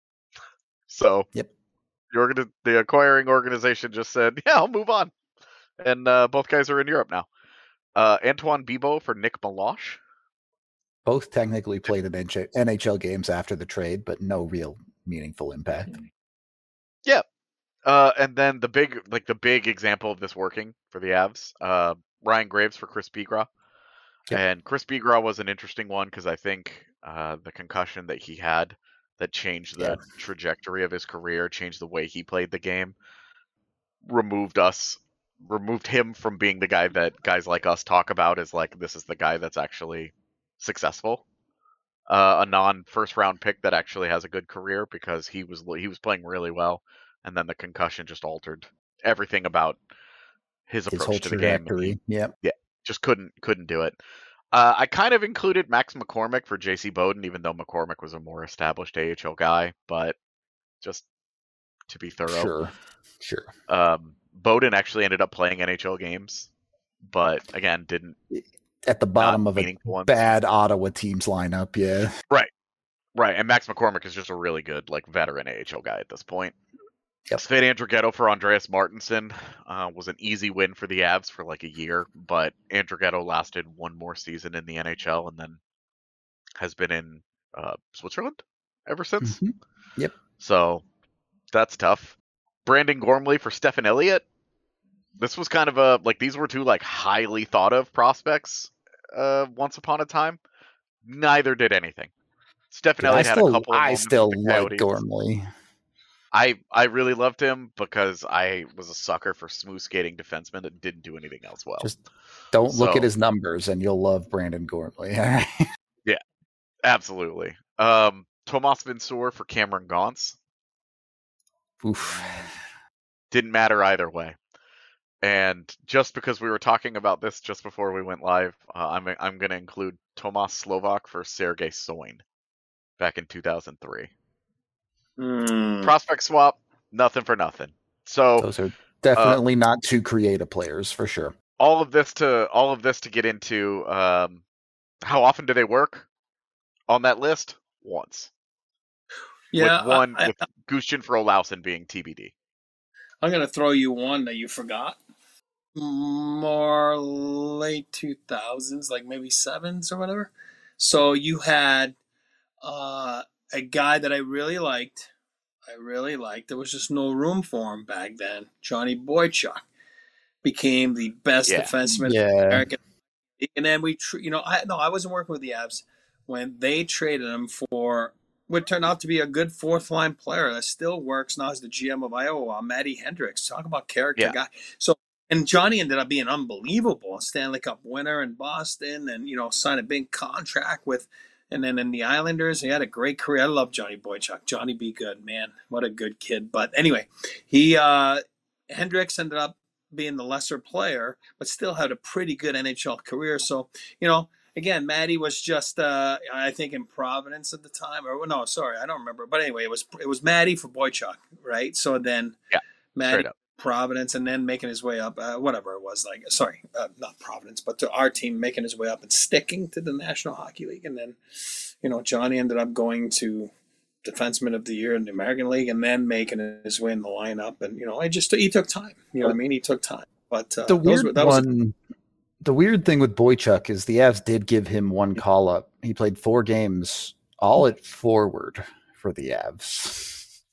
So Yep. the, organ- the acquiring organization just said, "Yeah, I'll move on," and uh, both guys are in Europe now. Uh, Antoine Bibeau for Nick Meloche. Both technically played in N H L games after the trade, but no real meaningful impact. Yeah. Uh, and then the big, like the big example of this working for the Avs, uh, Ryan Graves for Chris Bigra. Yep. And Chris Bigra was an interesting one because I think uh, the concussion that he had that changed the Yeah. trajectory of his career, changed the way he played the game, removed us, removed him from being the guy that guys like us talk about as like, this is the guy that's actually successful. Uh, a non-first round pick that actually has a good career because he was he was playing really well, and then the concussion just altered everything about his His approach whole to the game. and trajectory. Yep. he just couldn't couldn't do it. Uh, I kind of included Max McCormick for J C Bowden, even though McCormick was a more established A H L guy, but just to be thorough. Sure. Sure. Um, Bowden actually ended up playing N H L games, but again, didn't At the bottom not of a meaningful ones. bad Ottawa team's lineup. Yeah. Right. Right. And Max McCormick is just a really good, like, veteran A H L guy at this point. Yep. Sven Andrighetto for Andreas Martinson uh, was an easy win for the Avs for like a year, but Andrighetto lasted one more season in the N H L and then has been in uh, Switzerland ever since. Mhm. Yep. So that's tough. Brandon Gormley for Stefan Elliott. This was kind of a, like, these were two, like, highly thought of prospects uh, once upon a time. Neither did anything. Stefan I Elliott had a still, couple of I moments still with the like Coyotes. Gormley. I I really loved him because I was a sucker for smooth skating defensemen that didn't do anything else well. Just don't look So- at his numbers and you'll love Brandon Gormley. All right. Absolutely. Um, Tomas Vinsour for Cameron Gaunce. Oof. Didn't matter either way. And just because we were talking about this just before we went live, uh, I'm I'm going to include Tomas Slovak for Sergei Soin back in two thousand three. Mm. Prospect swap, nothing for nothing. So Those are definitely not two creative players for sure. all of this to all of this to get into um, how often do they work on that list? Once. Yeah, with one I, with Gushchin for Olausen being T B D. I'm going to throw you one that you forgot. More late two thousands, like maybe sevens or whatever. So you had uh, a guy that I really liked. I really liked. There was just no room for him back then. Johnny Boychuk became the best Yeah. defenseman in Yeah. the American League. And then we, tr- you know, I no, I wasn't working with the Avs when they traded him for what turned out to be a good fourth line player that still works now as the G M of Iowa, Matty Hendricks. Talk about character Yeah. guy. So And Johnny ended up being unbelievable. A Stanley Cup winner in Boston, and you know, signed a big contract with. And then in the Islanders, he had a great career. I love Johnny Boychuk. Johnny be good, man. What a good kid. But anyway, he uh, Hendricks ended up being the lesser player, but still had a pretty good N H L career. So, you know, again, Matty was just, uh, I think, in Providence at the time. Or no, sorry, I don't remember. But anyway, it was it was Matty for Boychuk, right? So then yeah, Matty Providence, and then making his way up, uh, whatever it was, like, sorry, uh, not Providence, but to our team, making his way up and sticking to the National Hockey League. And then, you know, Johnny ended up going to Defenseman of the Year in the American League, and then making his way in the lineup. And, you know, I just, he took time. You know what I mean? He took time. But uh, the weird were, that one, was, the weird thing with Boychuk is the Avs did give him one call up. He played four games, all at forward for the Avs.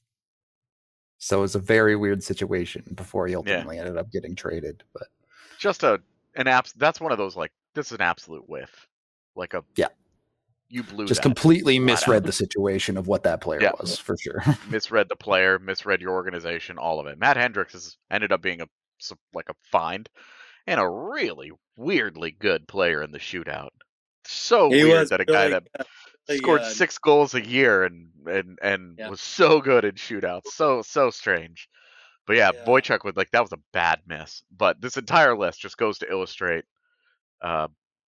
So it was a very weird situation before he ultimately yeah. ended up getting traded. But just a an abs. That's one of those, like, this is an absolute whiff. Like a yeah. You blew just that completely misread the situation of what that player yeah. was, for sure. Misread the player, misread your organization, all of it. Matt Hendricks has ended up being a like a find and a really weirdly good player in the shootout. So he weird that a really guy that good. scored six goals a year and and and yeah. was so good in shootouts. So so strange. But yeah, yeah, Boychuk would like that was a bad miss. But this entire list just goes to illustrate, uh,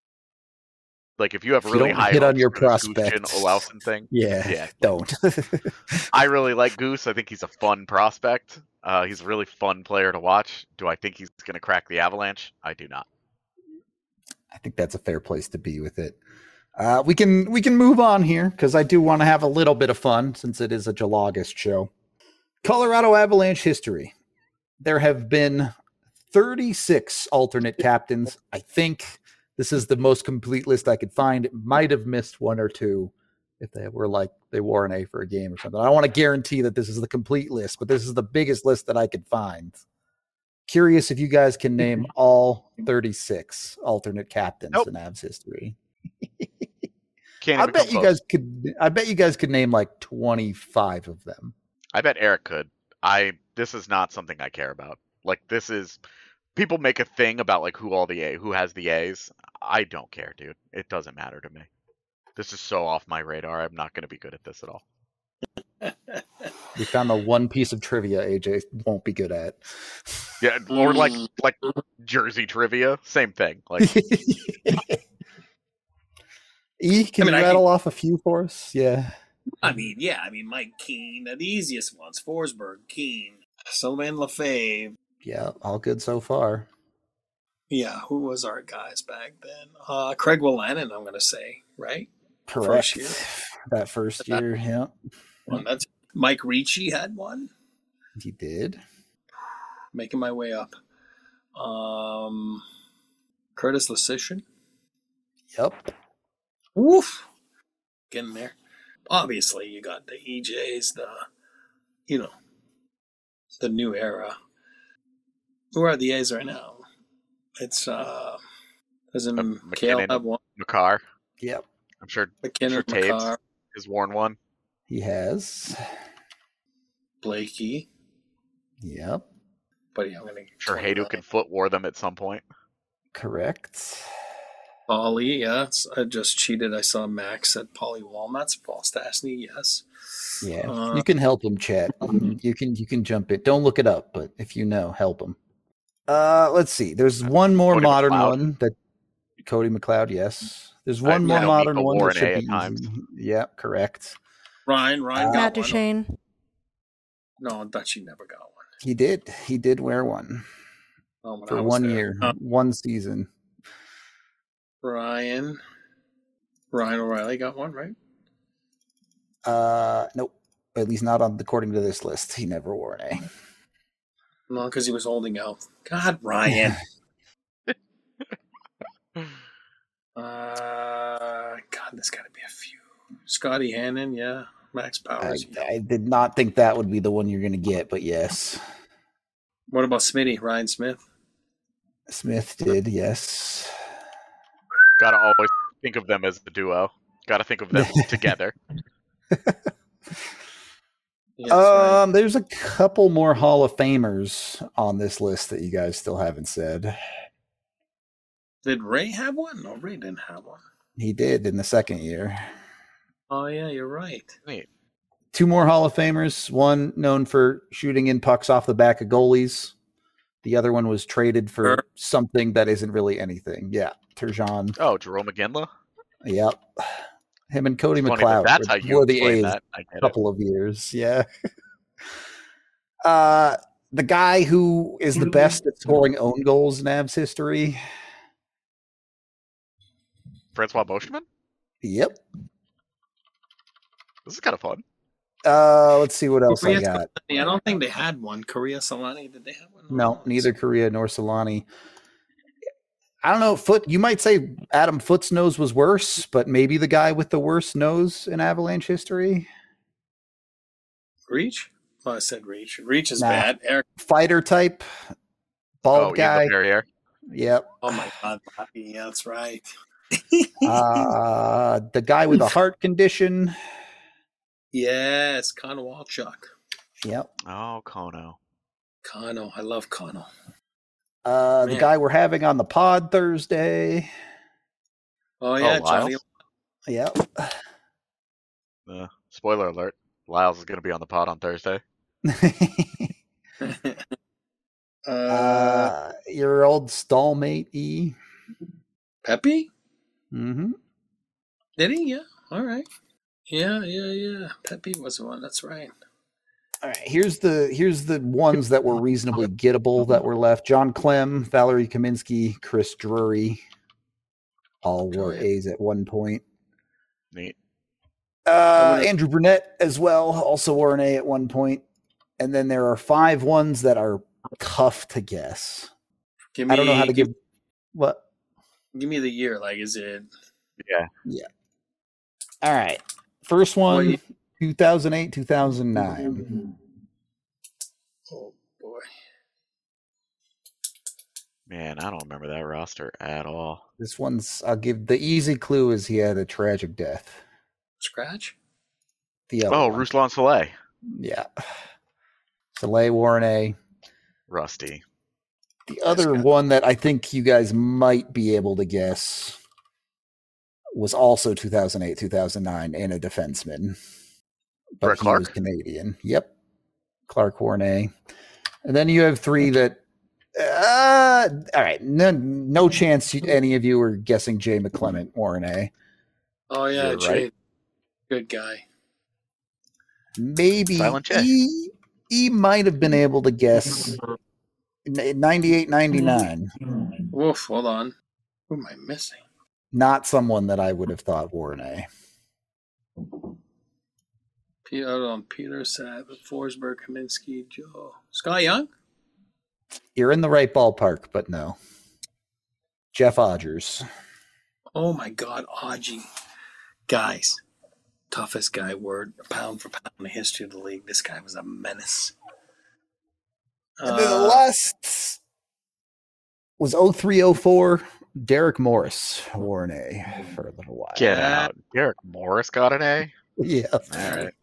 like if you have if really you high hit on your prospect Olausen thing, yeah, yeah, don't. I really like Goose. I think he's a fun prospect. Uh, he's a really fun player to watch. Do I think he's going to crack the Avalanche? I do not. I think that's a fair place to be with it. Uh, we can we can move on here because I do want to have a little bit of fun since it is a July-August show. Colorado Avalanche history. There have been thirty-six alternate captains. I think this is the most complete list I could find. It might have missed one or two if they were like they wore an A for a game or something. I don't want to guarantee that this is the complete list, but this is the biggest list that I could find. Curious if you guys can name all thirty-six alternate captains nope. in Avs history. Can't I bet you close. guys could. I bet you guys could name like twenty-five of them. I bet Eric could. I. This is not something I care about. Like this is. People make a thing about like who all the A, who has the A's. I don't care, dude. It doesn't matter to me. This is so off my radar. I'm not going to be good at this at all. We found the one piece of trivia A J won't be good at. Yeah, or like like Jersey trivia, same thing. Like, E, can I mean, you rattle can... off a few for us? Yeah. I mean, yeah. I mean, Mike Keane, the easiest ones: Forsberg, Keane, Sylvain Lefebvre. Yeah, all good so far. Yeah, who was our guys back then? Uh, Craig Wolanin, I'm going to say, right? Correct. First year. That first year, that, yeah. Well, that's Mike Ricci had one. He did. Making my way up. Um, Curtis Lesishin. Yep. Woof. Getting there. Obviously, you got the E Js, the, you know, the new era. Who are the A's right now? It's, uh, doesn't uh, Kale have one? Makar. Yep. I'm sure, McKinnon, sure Taves has worn one. He has. Blakey. Yep. But yeah, I'm going to. Sure, Hayduk and Foot wore them at some point. Correct. Paulie, yes. I just cheated. I saw Max at Paulie Walnuts. Paul Stastny, yes. Yeah, uh, you can help him, chat. You can you can jump it. Don't look it up, but if you know, help him. Uh, let's see. There's one more Cody modern McLeod. one that Cody McLeod. Yes, there's one I, more yeah, modern one that should should be times. Yeah, correct. Ryan, Ryan, uh, got Matt one. Duchene. No, Dutchie never got one. He did. He did wear one oh, for one there. year, uh, one season. Ryan, Ryan O'Reilly got one, right? Uh, nope. At least not on according to this list. He never wore an A. No, because he was holding out. God, Ryan. uh, God, there's got to be a few. Scotty Hannon, yeah. Max Powers. I, I did not think that would be the one you're going to get, but yes. What about Smitty? Ryan Smith? Smith did, yes. Gotta always think of them as the duo. Gotta think of them together. Yeah, Yeah, that's right. Um, there's a couple more Hall of Famers on this list that you guys still haven't said. Did Ray have one? No, Ray didn't have one. He did in the second year. Oh, yeah, you're right. Neat. Two more Hall of Famers. One known for shooting in pucks off the back of goalies. The other one was traded for Sure. something that isn't really anything. Yeah, Turgeon. Oh, Jerome McGinley? Yep. Him and Cody It's funny that McLeod that's were, how you were the explain A's that. I a get it. couple of years. Yeah. uh, the guy who is the best at scoring own goals in Avs history. Francois Beauchemin? Yep. This is kind of fun. Uh, let's see what else Korea I got. Solani, I don't think they had one. Korea Solani, did they have one? No, neither Korea nor Solani. I don't know. Foot. You might say Adam Foote's nose was worse, but maybe the guy with the worst nose in Avalanche history. Reach? Well, I said Reach. Reach is Nah. bad. Eric. Fighter type, bald oh, guy. Yves Laperriere? Yep. Oh my God, Bobby. Yeah, that's right. Uh, the guy with a heart condition. Yes, Connor Walchuk. Yep. Oh, Kono. Kano, I love Kano. Uh, the Man. guy we're having on the pod Thursday. Oh yeah, Oh, Johnny. Lyles? Yep. Uh, spoiler alert. Lyles is going to be on the pod on Thursday. uh, uh, your old stallmate E. Pepe? Mm-hmm. Did he? Yeah. All right. Yeah, yeah, yeah. Pepe was the one. That's right. All right, here's the here's the ones that were reasonably gettable that were left. John Clem, Valerie Kaminsky, Chris Drury, all were yeah. A's at one point. Neat. Uh, Andrew Burnett as well, also wore an A at one point. And then there are five ones that are tough to guess. Give me, I don't know how to give, give what. give me the year. Like, is it? Yeah. Yeah. All right. First one, Well, you- two thousand eight, two thousand nine. Oh boy. Man, I don't remember that roster at all. This one's, I'll give the easy clue is he had a tragic death. Scratch? The other Oh, one. Ruslan Soleil. Yeah. Soleil wore an A. Rusty. The other guy. one that I think you guys might be able to guess was also two thousand eight, two thousand nine, and a defenseman. But Brett he Clark? was Canadian. Yep. Clark wore an A. And then you have three that, uh, all right, no, no chance you, any of you are guessing Jay McClement wore an A. Oh yeah, You're Jay. right. Good guy. Maybe Silent Jay. he, he might have been able to guess ninety-eight, ninety-nine. Woof. Hold on. Who am I missing? Not someone that I would have thought wore an A. Peter on Peter Satt, Forsberg, Kaminsky, Joe, Scott Young. You're in the right ballpark, but no. Jeff Odgers. Oh my God, Audgie. Guys, toughest guy word, pound for pound in the history of the league. This guy was a menace. And then the Uh, last was oh three oh four. Derek Morris wore an A for a little while. Get Uh, out. Derek Morris got an A? Yeah. All right.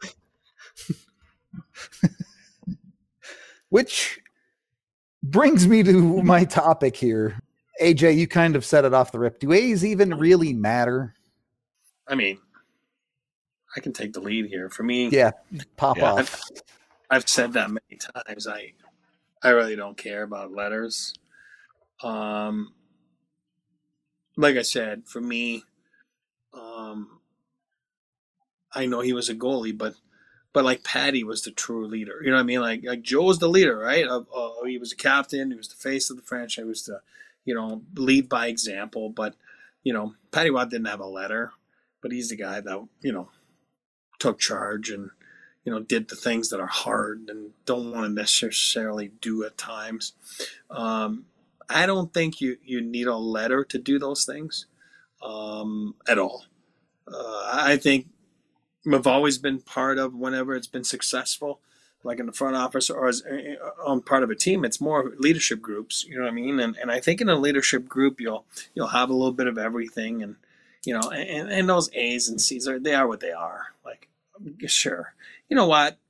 Which brings me to my topic here. A J, you kind of set it off the rip. Do A's even really matter? I mean, I can take the lead here. For me, Yeah, pop Yeah. off. I've said that many times. I I really don't care about letters. Um, like I said, for me, um, I know he was a goalie, but but like Patty was the true leader. You know what I mean? Like like Joe was the leader, right? Of, uh, he was a captain. He was the face of the franchise. He was the you know lead by example. But you know, Patty Watt didn't have a letter, but he's the guy that you know took charge and you know did the things that are hard and don't want to necessarily do at times. Um, I don't think you you need a letter to do those things um, at all. Uh, I think I've always been part of whenever it's been successful, like in the front office or as on part of a team. It's more leadership groups, you know what I mean? And and I think in a leadership group, you'll you'll have a little bit of everything, and you know, and, and those A's and C's are they are what they are. Like, sure, you know what,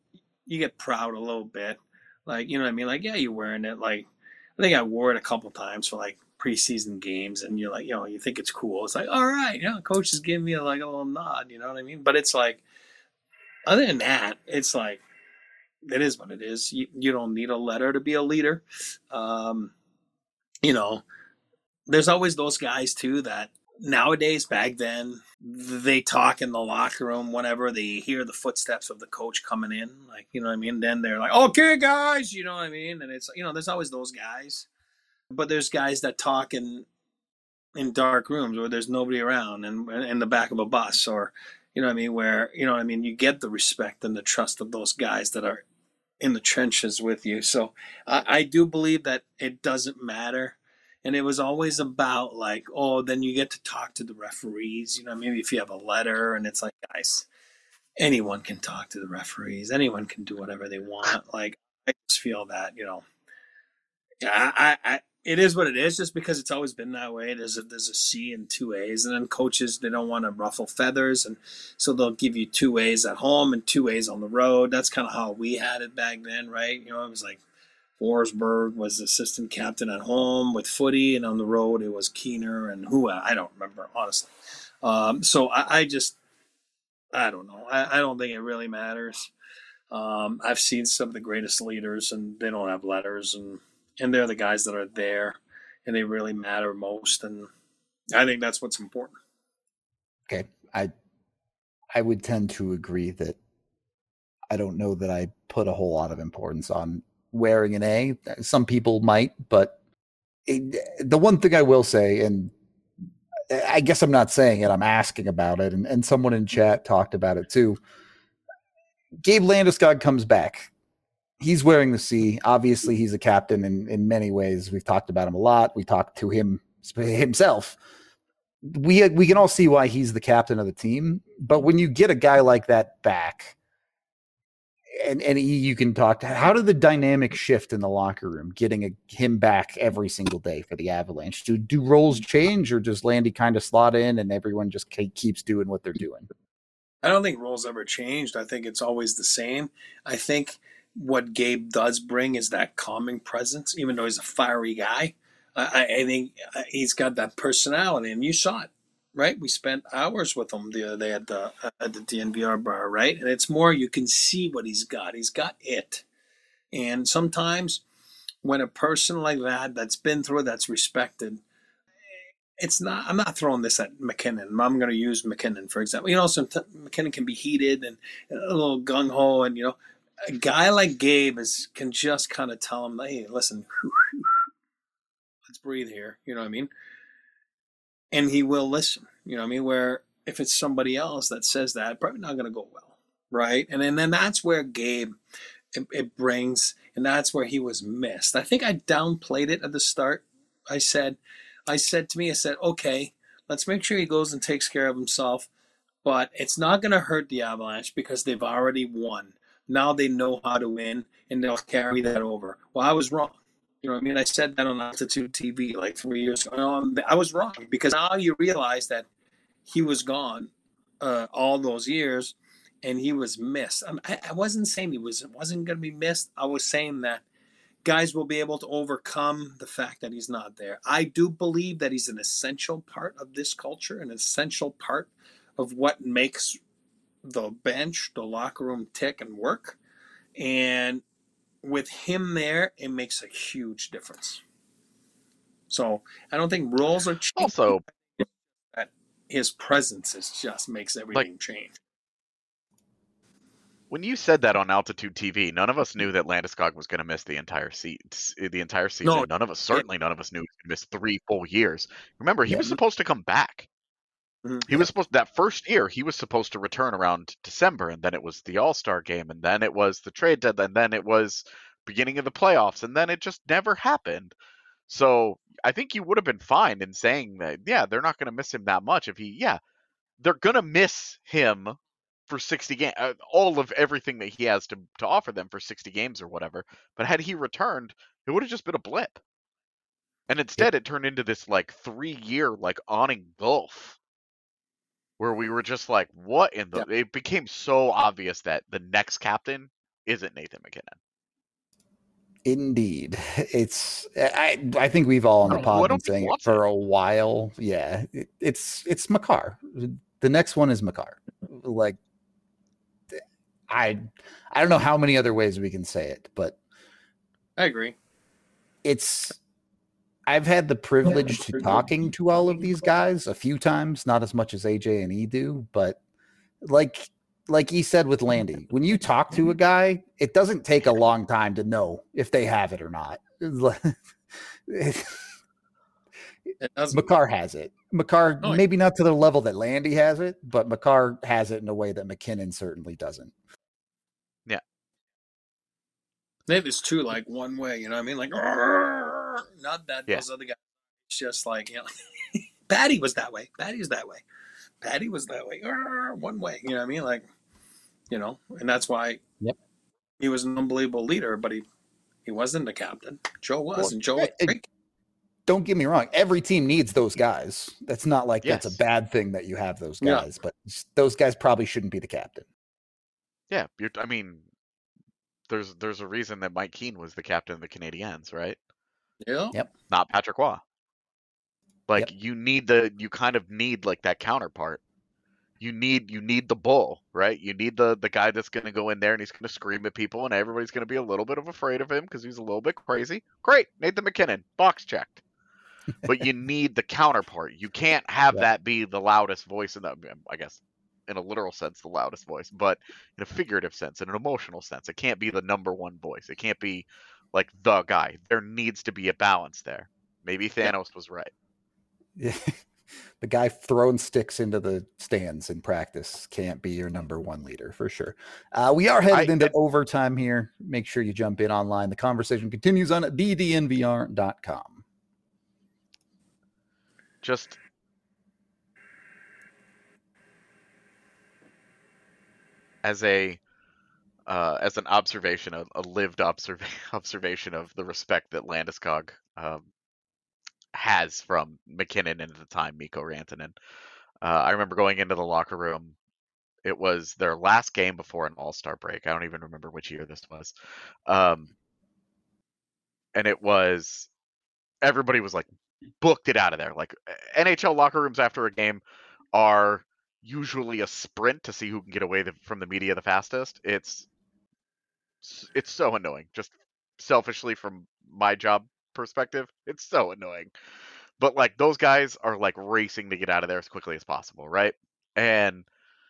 you get proud a little bit. Like, you know what I mean? Like, yeah, you're wearing it. Like, I think I wore it a couple times for like preseason games, and you're like, you know, you think it's cool. It's like, all right, you know, coach is giving me like a little nod, you know what I mean? But it's like, other than that, it's like, it is what it is. You, you don't need a letter to be a leader. Um, you know, there's always those guys too that nowadays, back then, they talk in the locker room whenever they hear the footsteps of the coach coming in. Like, you know what I mean? Then they're like, okay, guys, you know what I mean? And it's, you know, there's always those guys. But there's guys that talk in in dark rooms where there's nobody around and in the back of a bus, or, you know what I mean, where, you know what I mean, you get the respect and the trust of those guys that are in the trenches with you. So I, I do believe that it doesn't matter. And it was always about like, oh, then you get to talk to the referees, you know, maybe if you have a letter, and it's like, guys, anyone can talk to the referees. Anyone can do whatever they want. Like, I just feel that, you know, yeah, I, I, it is what it is, just because it's always been that way. There's a, there's a C and two A's, and then coaches, they don't want to ruffle feathers, and so they'll give you two A's at home and two A's on the road. That's kind of how we had it back then, right? You know, it was like Forsberg was assistant captain at home with footy, and on the road it was Keener and who I don't remember, honestly. Um, so I, I just, I don't know. I, I don't think it really matters. Um, I've seen some of the greatest leaders, and they don't have letters, and and they're the guys that are there, and they really matter most. And I think that's what's important. Okay, I I would tend to agree that I don't know that I put a whole lot of importance on wearing an A. Some people might, but it, the one thing I will say, and I guess I'm not saying it, I'm asking about it, and, and someone in chat talked about it too. Gabe Landeskog comes back. He's wearing the C. Obviously, he's a captain in, in many ways. We've talked about him a lot. We talked to him himself. We we can all see why he's the captain of the team. But when you get a guy like that back, and and he, you can talk to, how did the dynamic shift in the locker room getting a, him back every single day for the Avalanche? Do do roles change, or does Landy kind of slot in and everyone just keeps doing what they're doing? I don't think roles ever changed. I think it's always the same. I think what Gabe does bring is that calming presence, even though he's a fiery guy. I, I think he's got that personality, and you saw it, right? We spent hours with him the other day at the at the D N V R bar, right? And it's more, you can see what he's got. He's got it. And sometimes when a person like that, that's been through it, that's respected, it's not, I'm not throwing this at McKinnon. I'm going to use McKinnon, for example. You know, sometimes McKinnon can be heated and a little gung-ho, and, you know, a guy like Gabe is can just kind of tell him, hey, listen, let's breathe here. You know what I mean? And he will listen. You know what I mean? Where if it's somebody else that says that, probably not going to go well, right? And, and then that's where Gabe, it, it brings, and that's where he was missed. I think I downplayed it at the start. I said, I said to me, I said, okay, let's make sure he goes and takes care of himself, but it's not going to hurt the Avalanche because they've already won. Now they know how to win, and they'll carry that over. Well, I was wrong. You know what I mean? I said that on Altitude T V like three years ago. No, I was wrong, because now you realize that he was gone uh, all those years, and he was missed. I, I wasn't saying he was, wasn't going to be missed. I was saying that guys will be able to overcome the fact that he's not there. I do believe that he's an essential part of this culture, an essential part of what makes the bench, the locker room tick and work. And with him there, it makes a huge difference. So I don't think roles are changing. Also, that his presence is just makes everything like, change. When you said that on Altitude T V, none of us knew that Landeskog was going to miss the entire se- the entire season. No, none of us, certainly none of us knew he was going to miss three full years. Remember, he yeah. was supposed to come back. Mm-hmm. He was supposed that first year he was supposed to return around December, and then it was the All-Star game, and then it was the trade deadline, and then it was beginning of the playoffs, and then it just never happened. So I think you would have been fine in saying that, yeah, they're not going to miss him that much. If he, yeah, they're going to miss him for sixty games, uh, all of everything that he has to, to offer them for sixty games or whatever. But had he returned, it would have just been a blip. And instead, it turned into this like three-year like awning gulf, where we were just like, what in the? Yeah. It became so obvious that the next captain isn't Nathan MacKinnon. Indeed. It's I I think we've all on the pod been saying it for a while. Yeah. It, it's it's Makar. The next one is Makar. Like I I don't know how many other ways we can say it, but I agree. It's I've had the privilege to talking to all of these guys a few times, not as much as A J and E do, but like like he said with Landy, when you talk to a guy, it doesn't take a long time to know if they have it or not. It, Makar has it. Makar, oh, maybe not to the level that Landy has it, but Makar has it in a way that MacKinnon certainly doesn't. Yeah. Maybe it's true, like one way, you know what I mean? Like, not that yeah. those other guys. It's just like, you know, Patty was that way. Patty was that way. Patty was that way. One way, you know what I mean? Like, you know, and that's why yep. he was an unbelievable leader, but he, he wasn't the captain. Joe was, well, and Joe was great. Don't get me wrong. Every team needs those guys. That's not like yes. that's a bad thing that you have those guys, yeah. but those guys probably shouldn't be the captain. Yeah. You're, I mean, there's there's a reason that Mike Keane was the captain of the Canadiens, right? Yeah. Yep. Not Patrick Waugh. Like yep. you need the, you kind of need like that counterpart. You need, you need the bull, right? You need the, the guy that's going to go in there and he's going to scream at people and everybody's going to be a little bit of afraid of him because he's a little bit crazy. Great. Nathan MacKinnon, box checked. But you need the counterpart. You can't have yep. that be the loudest voice in the, I guess, in a literal sense, the loudest voice, but in a figurative sense, in an emotional sense, it can't be the number one voice. It can't be like the guy. There needs to be a balance there. Maybe Thanos yep. was right. Yeah. The guy throwing sticks into the stands in practice can't be your number one leader for sure. Uh, we are headed I, into I, overtime here. Make sure you jump in online. The conversation continues on d d n v r dot com. Just as a uh, as an observation, a, a lived observa- observation of the respect that Landeskog um, has from MacKinnon and at the time Mikko Rantanen. Uh, I remember going into the locker room. It was their last game before an All-Star break. I don't even remember which year this was. Um, and it was, everybody was like, booked it out of there. Like N H L locker rooms after a game are usually a sprint to see who can get away the, from the media the fastest. It's, it's so annoying. Just selfishly from my job perspective, it's so annoying. But like those guys are like racing to get out of there as quickly as possible, right? And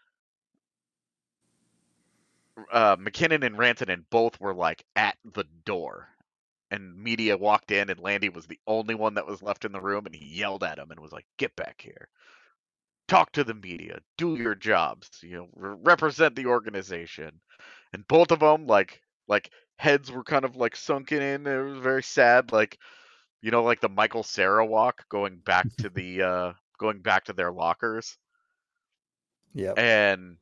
uh, MacKinnon and Rantanen both were like at the door, and media walked in, and Landy was the only one that was left in the room, and he yelled at him and was like, "Get back here, talk to the media, do your jobs, you know, re- represent the organization." And both of them, like, like heads were kind of like sunken in. It was very sad, like. You know, like the Michael Cera walk going back to the uh, going back to their lockers. Yeah. And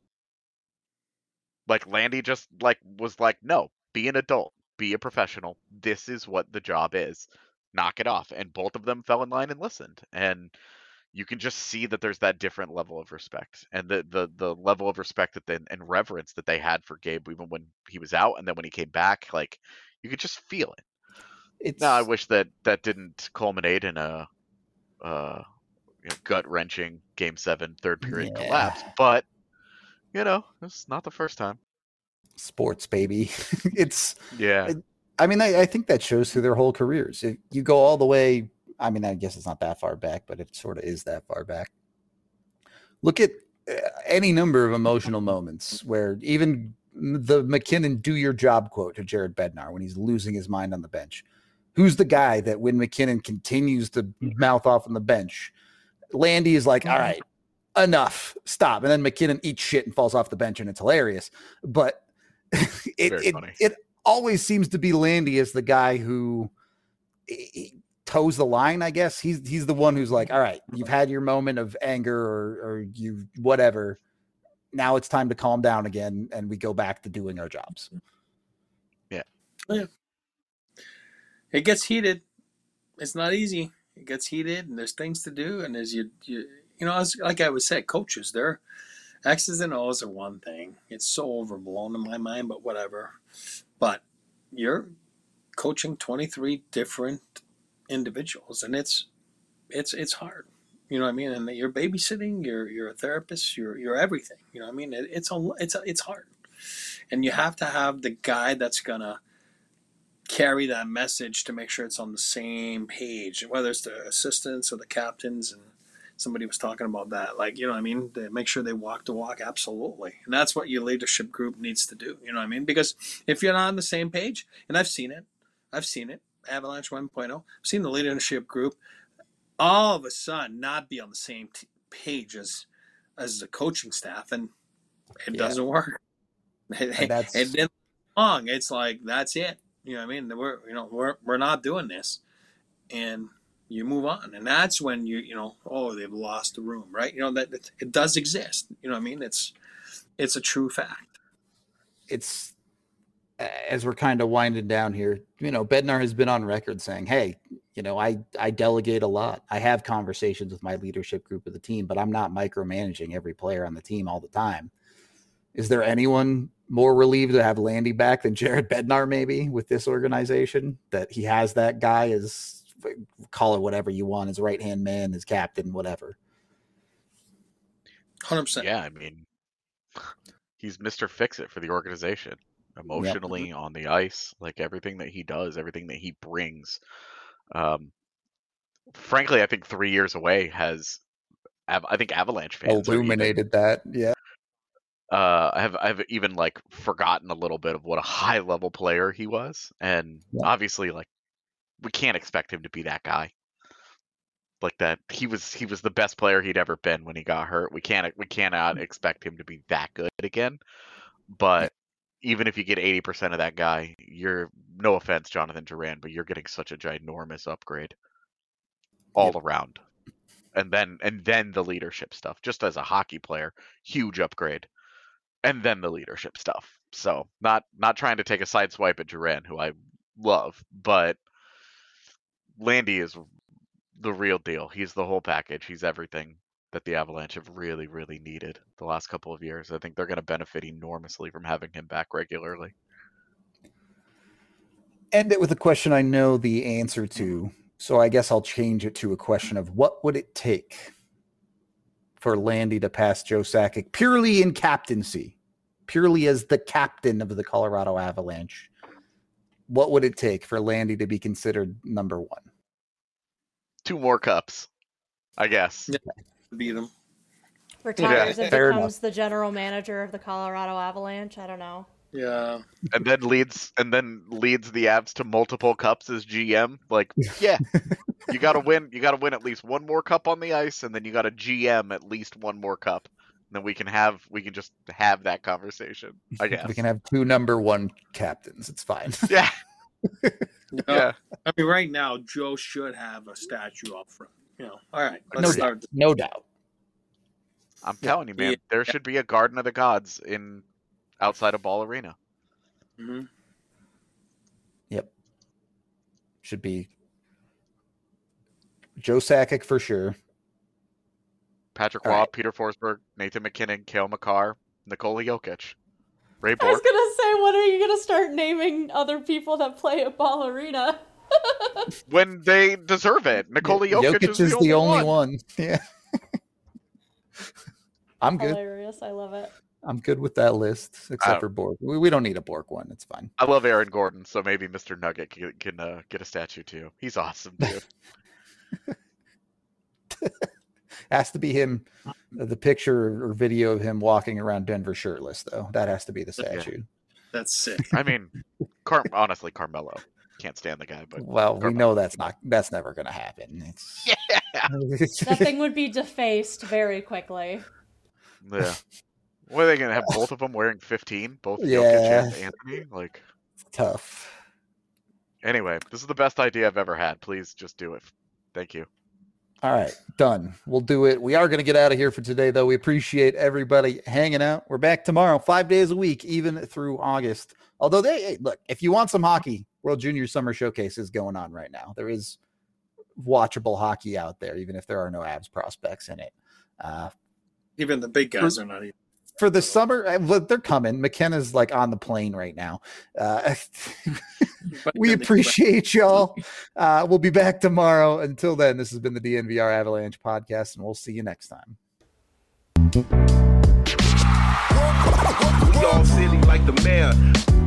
like Landy just like was like, no, be an adult, be a professional. This is what the job is. Knock it off. And both of them fell in line and listened. And you can just see that there's that different level of respect and the the the level of respect that they, and reverence that they had for Gabe even when he was out and then when he came back, like you could just feel it. It's... Now, I wish that that didn't culminate in a uh, you know, gut-wrenching Game seven third period yeah. collapse, but you know, it's not the first time. Sports, baby. It's yeah. It, I mean, I, I think that shows through their whole careers. If you go all the way. I mean, I guess it's not that far back, but it sort of is that far back. Look at any number of emotional moments where even the MacKinnon "do your job" quote to Jared Bednar when he's losing his mind on the bench. Who's the guy that when MacKinnon continues to mouth off on the bench, Landy is like, all right, enough, stop. And then MacKinnon eats shit and falls off the bench, and it's hilarious. But it it, it always seems to be Landy as the guy who he toes the line, I guess. He's he's the one who's like, all right, you've had your moment of anger or, or you whatever. Now it's time to calm down again, and we go back to doing our jobs. Yeah. Yeah. It gets heated. It's not easy. It gets heated, and there's things to do. And as you, you, you know, as like I would say, coaches, they're X's and O's are one thing. It's so overblown in my mind, but whatever. But you're coaching twenty-three different individuals, and it's it's it's hard. You know what I mean? And you're babysitting. You're you're a therapist. You're you're everything. You know what I mean? It, it's a it's a, it's hard, and you have to have the guy that's gonna carry that message to make sure it's on the same page, whether it's the assistants or the captains. And somebody was talking about that, like, you know what I mean, to make sure they walk the walk. Absolutely. And that's what your leadership group needs to do. You know what I mean? Because if you're not on the same page, and I've seen it, I've seen it, Avalanche one point oh, I've seen the leadership group all of a sudden not be on the same t- page as as the coaching staff, and it Yeah. doesn't work. And that's- it didn't long. It's like, that's it. You know what I mean? We're you know we're we're not doing this, and you move on, and that's when you you know oh, they've lost the room, right? You know that it, it does exist. You know what I mean? It's it's a true fact. It's as we're kind of winding down here. You know, Bednar has been on record saying, "Hey, you know, I I delegate a lot. I have conversations with my leadership group of the team, but I'm not micromanaging every player on the team all the time." Is there anyone more relieved to have Landy back than Jared Bednar, maybe, with this organization? That he has that guy as, call it whatever you want, his right-hand man, his captain, whatever. one hundred percent. Yeah, I mean, he's Mister Fix-It for the organization. Emotionally, Yep. on the ice, like everything that he does, everything that he brings. Um, frankly, I think three years away has, I think Avalanche fans are even- Illuminated that, yeah. uh, I have I've even like forgotten a little bit of what a high level player he was, and Yeah. obviously, like, we can't expect him to be that guy. Like that, he was he was the best player he'd ever been when he got hurt. We can't we cannot expect him to be that good again. But even if you get eighty percent of that guy, you're, no offense, Jonathan Duran, but you're getting such a ginormous upgrade all Yep. around. And then and then the leadership stuff, just as a hockey player, huge upgrade. And then the leadership stuff. So not not trying to take a side swipe at Duran, who I love, but Landy is the real deal. He's the whole package. He's everything that the Avalanche have really, really needed the last couple of years. I think they're going to benefit enormously from having him back regularly. End it with a question I know the answer to, so I guess I'll change it to a question of what would it take for Landy to pass Joe Sakic purely in captaincy, purely as the captain of the Colorado Avalanche? What would it take for Landy to be considered number one? Two more cups, I guess. Yeah. Beat him. Retires Yeah, and fair becomes enough. the general manager of the Colorado Avalanche. I don't know. Yeah. And then leads and then leads the Avs to multiple cups as G M. Like, yeah, you got to win. You got to win at least one more cup on the ice, and then you got to G M at least one more cup. And then we can have we can just have that conversation, I guess. We can have two number one captains. It's fine. Yeah, No, yeah. I mean, right now, Joe should have a statue up front. You know, all right, let's No start. doubt. No doubt. I'm telling you, man, Yeah. there should be a Garden of the Gods in outside of Ball Arena. Mm-hmm. Yep. Should be Joe Sakic for sure. Patrick All Waugh, right. Peter Forsberg, Nathan McKinnon, Kale McCarr, Nikola Jokic, Ray I was Bork. gonna say, when are you gonna start naming other people that play at Ball Arena? When they deserve it. Nikola Jokic, is, the, only, one. Yeah. I'm good. Hilarious. I love it. I'm good with that list, except don't- for Bork. We, we don't need a Bork one. It's fine. I love Aaron Gordon, so maybe Mister Nugget can, can uh, get a statue too. He's awesome too. Has to be him. The picture or video of him walking around Denver shirtless, though. That has to be the statue. That's sick. I mean, Car- honestly, Carmelo. Can't stand the guy, but Well, we Carmelo. know that's not. That's never going to happen. It's, yeah. That thing would be defaced very quickly. Yeah. What are they gonna have both of them wearing fifteen? Both Yeah. Jokic and Anthony? Like, tough. anyway, this is the best idea I've ever had. Please just do it. Thank you. All right, done. We'll do it. We are going to get out of here for today, though. We appreciate everybody hanging out. We're back tomorrow, five days a week, even through August. Although they hey, look, if you want some hockey, World Junior Summer Showcase is going on right now. There is watchable hockey out there, even if there are no Avs prospects in it. Uh, Even the big guys are not even. for the summer, uh, they're coming. McKenna's like on the plane right now. Uh, we appreciate y'all. Uh, we'll be back tomorrow. Until then, this has been the D N V R Avalanche podcast, and we'll see you next time. We all silly like the mayor.